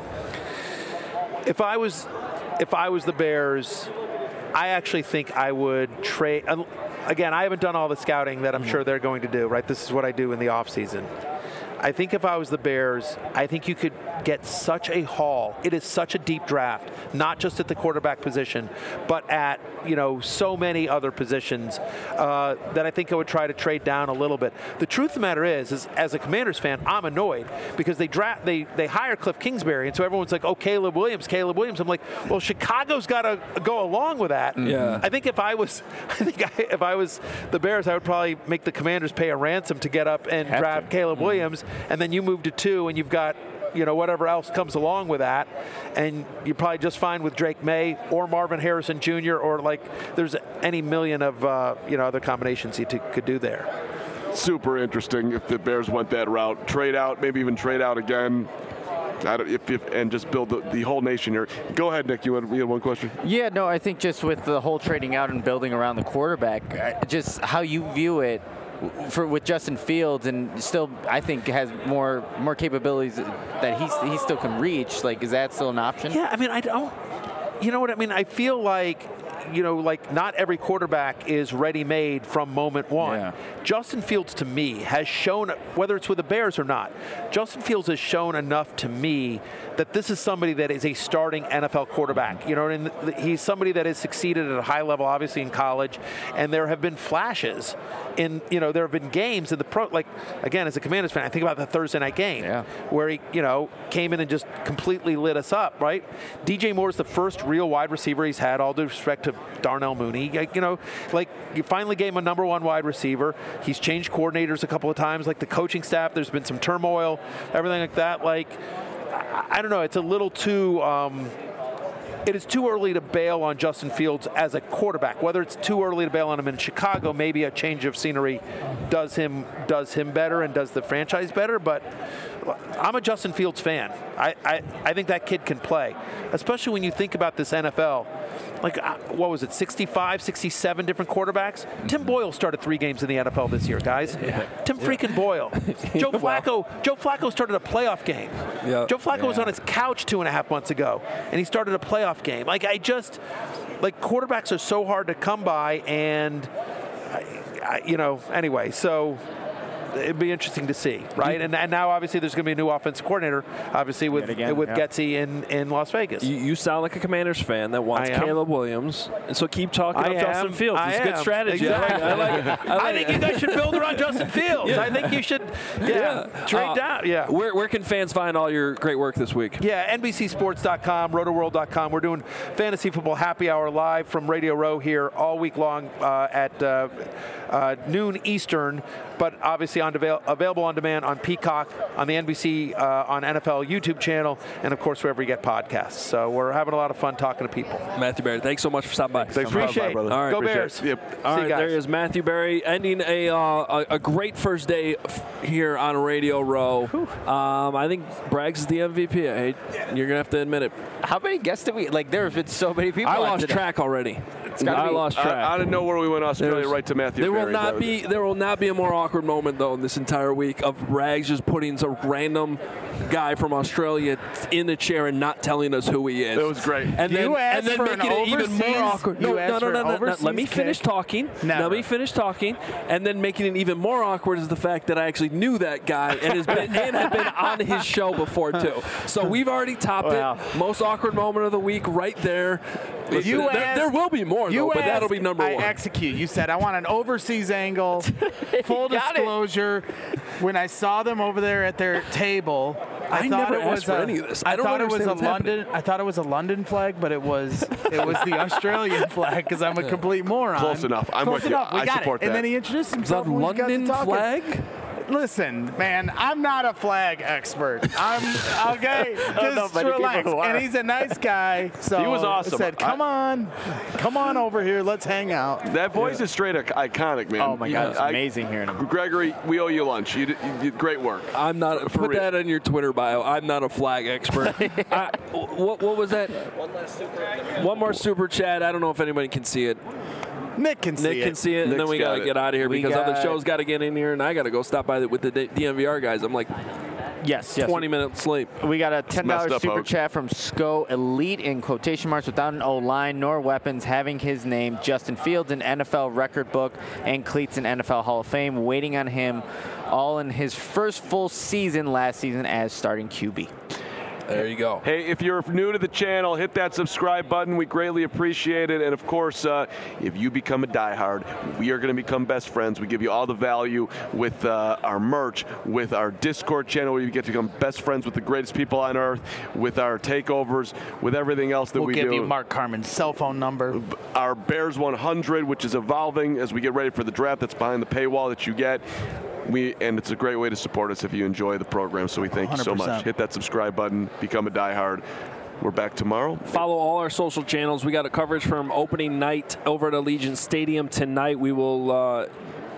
If I was the Bears, I actually think I would trade. Again, I haven't done all the scouting that I'm sure they're going to do, right? This is what I do in the offseason. I think if I was the Bears, I think you could get such a haul. It is such a deep draft, not just at the quarterback position, but at so many other positions that I think I would try to trade down a little bit. The truth of the matter is as a Commanders fan, I'm annoyed because they hire Cliff Kingsbury, and so everyone's like, oh, Caleb Williams. I'm like, well, Chicago's got to go along with that. Yeah. I think if I was the Bears, I would probably make the Commanders pay a ransom to get up and draft Caleb Williams, and then you move to 2, and you've got whatever else comes along with that, and you're probably just fine with Drake May or Marvin Harrison Jr. or there's any million of other combinations you could do there. Super interesting if the Bears went that route. Trade out, maybe even trade out again. And just build the whole nation here. Go ahead, Nick. You had one question? Yeah, no, I think just with the whole trading out and building around the quarterback, just how you view it, with Justin Fields, and still I think has more capabilities that he still can reach. Like, is that still an option? Yeah, I mean, I don't. You know what I mean? I feel like, like not every quarterback is ready-made from moment one. Yeah. Justin Fields, to me, has shown, whether it's with the Bears or not, Justin Fields has shown enough to me that this is somebody that is a starting NFL quarterback. And he's somebody that has succeeded at a high level, obviously in college, and there have been flashes in, there have been games in the pro, like, again, as a Commanders fan, I think about the Thursday night game where he, came in and just completely lit us up, right? DJ Moore is the first real wide receiver he's had, all due respect to Darnell Mooney. You finally gave him a number one wide receiver. He's changed coordinators a couple of times, like the coaching staff. There's been some turmoil, everything like that. Like, I don't know. It's a little too. It is too early to bail on Justin Fields as a quarterback. Whether it's too early to bail on him in Chicago, maybe a change of scenery does him better and does the franchise better. But I'm a Justin Fields fan. I think that kid can play, especially when you think about this NFL. Like, what was it, 65, 67 different quarterbacks? Tim Boyle started 3 games in the NFL this year, guys. Tim freaking Boyle. Joe Flacco started a playoff game. Joe Flacco was on his couch 2.5 months ago, and he started a playoff game. Quarterbacks are so hard to come by, and, anyway, so it'd be interesting to see, right? And now, obviously, there's going to be a new offensive coordinator, obviously, with Getsy in Las Vegas. You sound like a Commanders fan that wants Caleb Williams, and so keep talking about Justin Fields. It's a good strategy. Exactly. I think you guys should build around Justin Fields. I think you should trade down. Yeah. Where can fans find all your great work this week? Yeah, NBCSports.com, RotoWorld.com. We're doing Fantasy Football Happy Hour live from Radio Row here all week long at noon Eastern, but obviously available on demand on Peacock, on the NBC, on NFL YouTube channel, and of course wherever you get podcasts. So we're having a lot of fun talking to people. Matthew Berry, thanks so much for stopping by. Thanks, appreciate it. All right, go Bears. Yep. All right, there is Matthew Berry ending a great first day here on Radio Row. I think Braggs is the MVP. You're gonna have to admit it. How many guests did we? Like, there have been so many people. I lost track already. I lost track. Out of nowhere, we went Australia right to Matthew Berry. There will not be a more awkward moment, though, in this entire week of Rags just putting some random guy from Australia in the chair and not telling us who he is. It was great. And then making it even more awkward. No. Let me finish talking. Let me finish talking. And then making it even more awkward is the fact that I actually knew that guy and had been on his show before, too. So we've already topped it. Most awkward moment of the week right there. Listen, there will be more, though, but that'll be number one. I execute. You said, I want an overseas angle. Full disclosure, when I saw them over there at their table, I thought never it was asked for any of this. I thought it was a London. I thought it was a London flag, but it was the Australian flag because I'm a complete moron. Close enough. I'm with you. I support that. And then he introduced himself. The London flag? Listen, man, I'm not a flag expert. I'm okay. Just relax. And he's a nice guy. So he was awesome. I said, come on over here. Let's hang out. That voice is straight iconic, man. Oh my God, it's amazing hearing him. Gregory, we owe you lunch. You did great work. I'm not. Put that in your Twitter bio. I'm not a flag expert. What was that? One more super chat. I don't know if anybody can see it. Nick can see it. And then we got to get out of here because other shows got to get in here, and I got to go stop by with the DNVR guys. I'm like, yes. 20 minutes sleep. We got a $10 super chat from SCO Elite in quotation marks without an O-line nor weapons, having his name, Justin Fields, in NFL record book and cleats in NFL Hall of Fame, waiting on him all in his first full season last season as starting QB. There you go. Hey, if you're new to the channel, hit that subscribe button. We greatly appreciate it. And, of course, if you become a diehard, we are going to become best friends. We give you all the value with our merch, with our Discord channel, where you get to become best friends with the greatest people on earth, with our takeovers, with everything else that we do. We'll give you Mark Carman's cell phone number. Our Bears 100, which is evolving as we get ready for the draft. That's behind the paywall that you get. And it's a great way to support us if you enjoy the program, so we thank 100%. You so much. Hit that subscribe button, become a diehard. We're back tomorrow. Follow all our social channels. We got a coverage from opening night over at Allegiant Stadium tonight. We will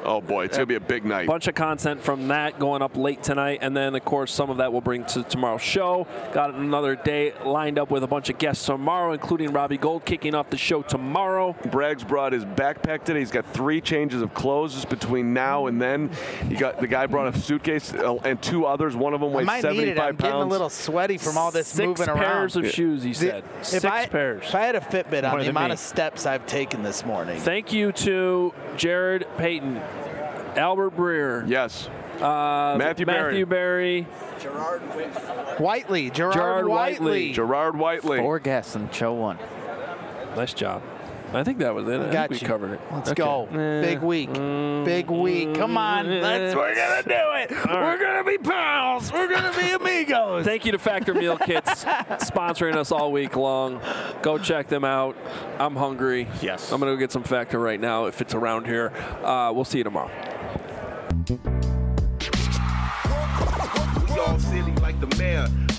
Oh, boy, it's going to be a big night. Bunch of content from that going up late tonight, and then, of course, some of that we'll bring to tomorrow's show. Got another day lined up with a bunch of guests tomorrow, including Robbie Gould kicking off the show tomorrow. Bragg's brought his backpack today. He's got 3 changes of clothes just between now and then. The guy brought a suitcase and 2 others. One of them weighs 75 pounds. I'm getting a little sweaty from all this moving around. 6 pairs of shoes, he said. 6 pairs. If I had a Fitbit on the amount of steps I've taken this morning. Thank you to Jared Payton, Albert Breer. Yes. Matthew Berry. Gerard Whiteley. Gerard Whiteley. 4 guests in show 1. Nice job. I think that was it. I think we covered it. Let's go. Big week. Big week. Come on. We're going to do it. We're going to be pals. We're going to be amigos. Thank you to Factor Meal Kits sponsoring us all week long. Go check them out. I'm hungry. Yes. I'm going to go get some Factor right now if it's around here. We'll see you tomorrow. We all silly like the mayor.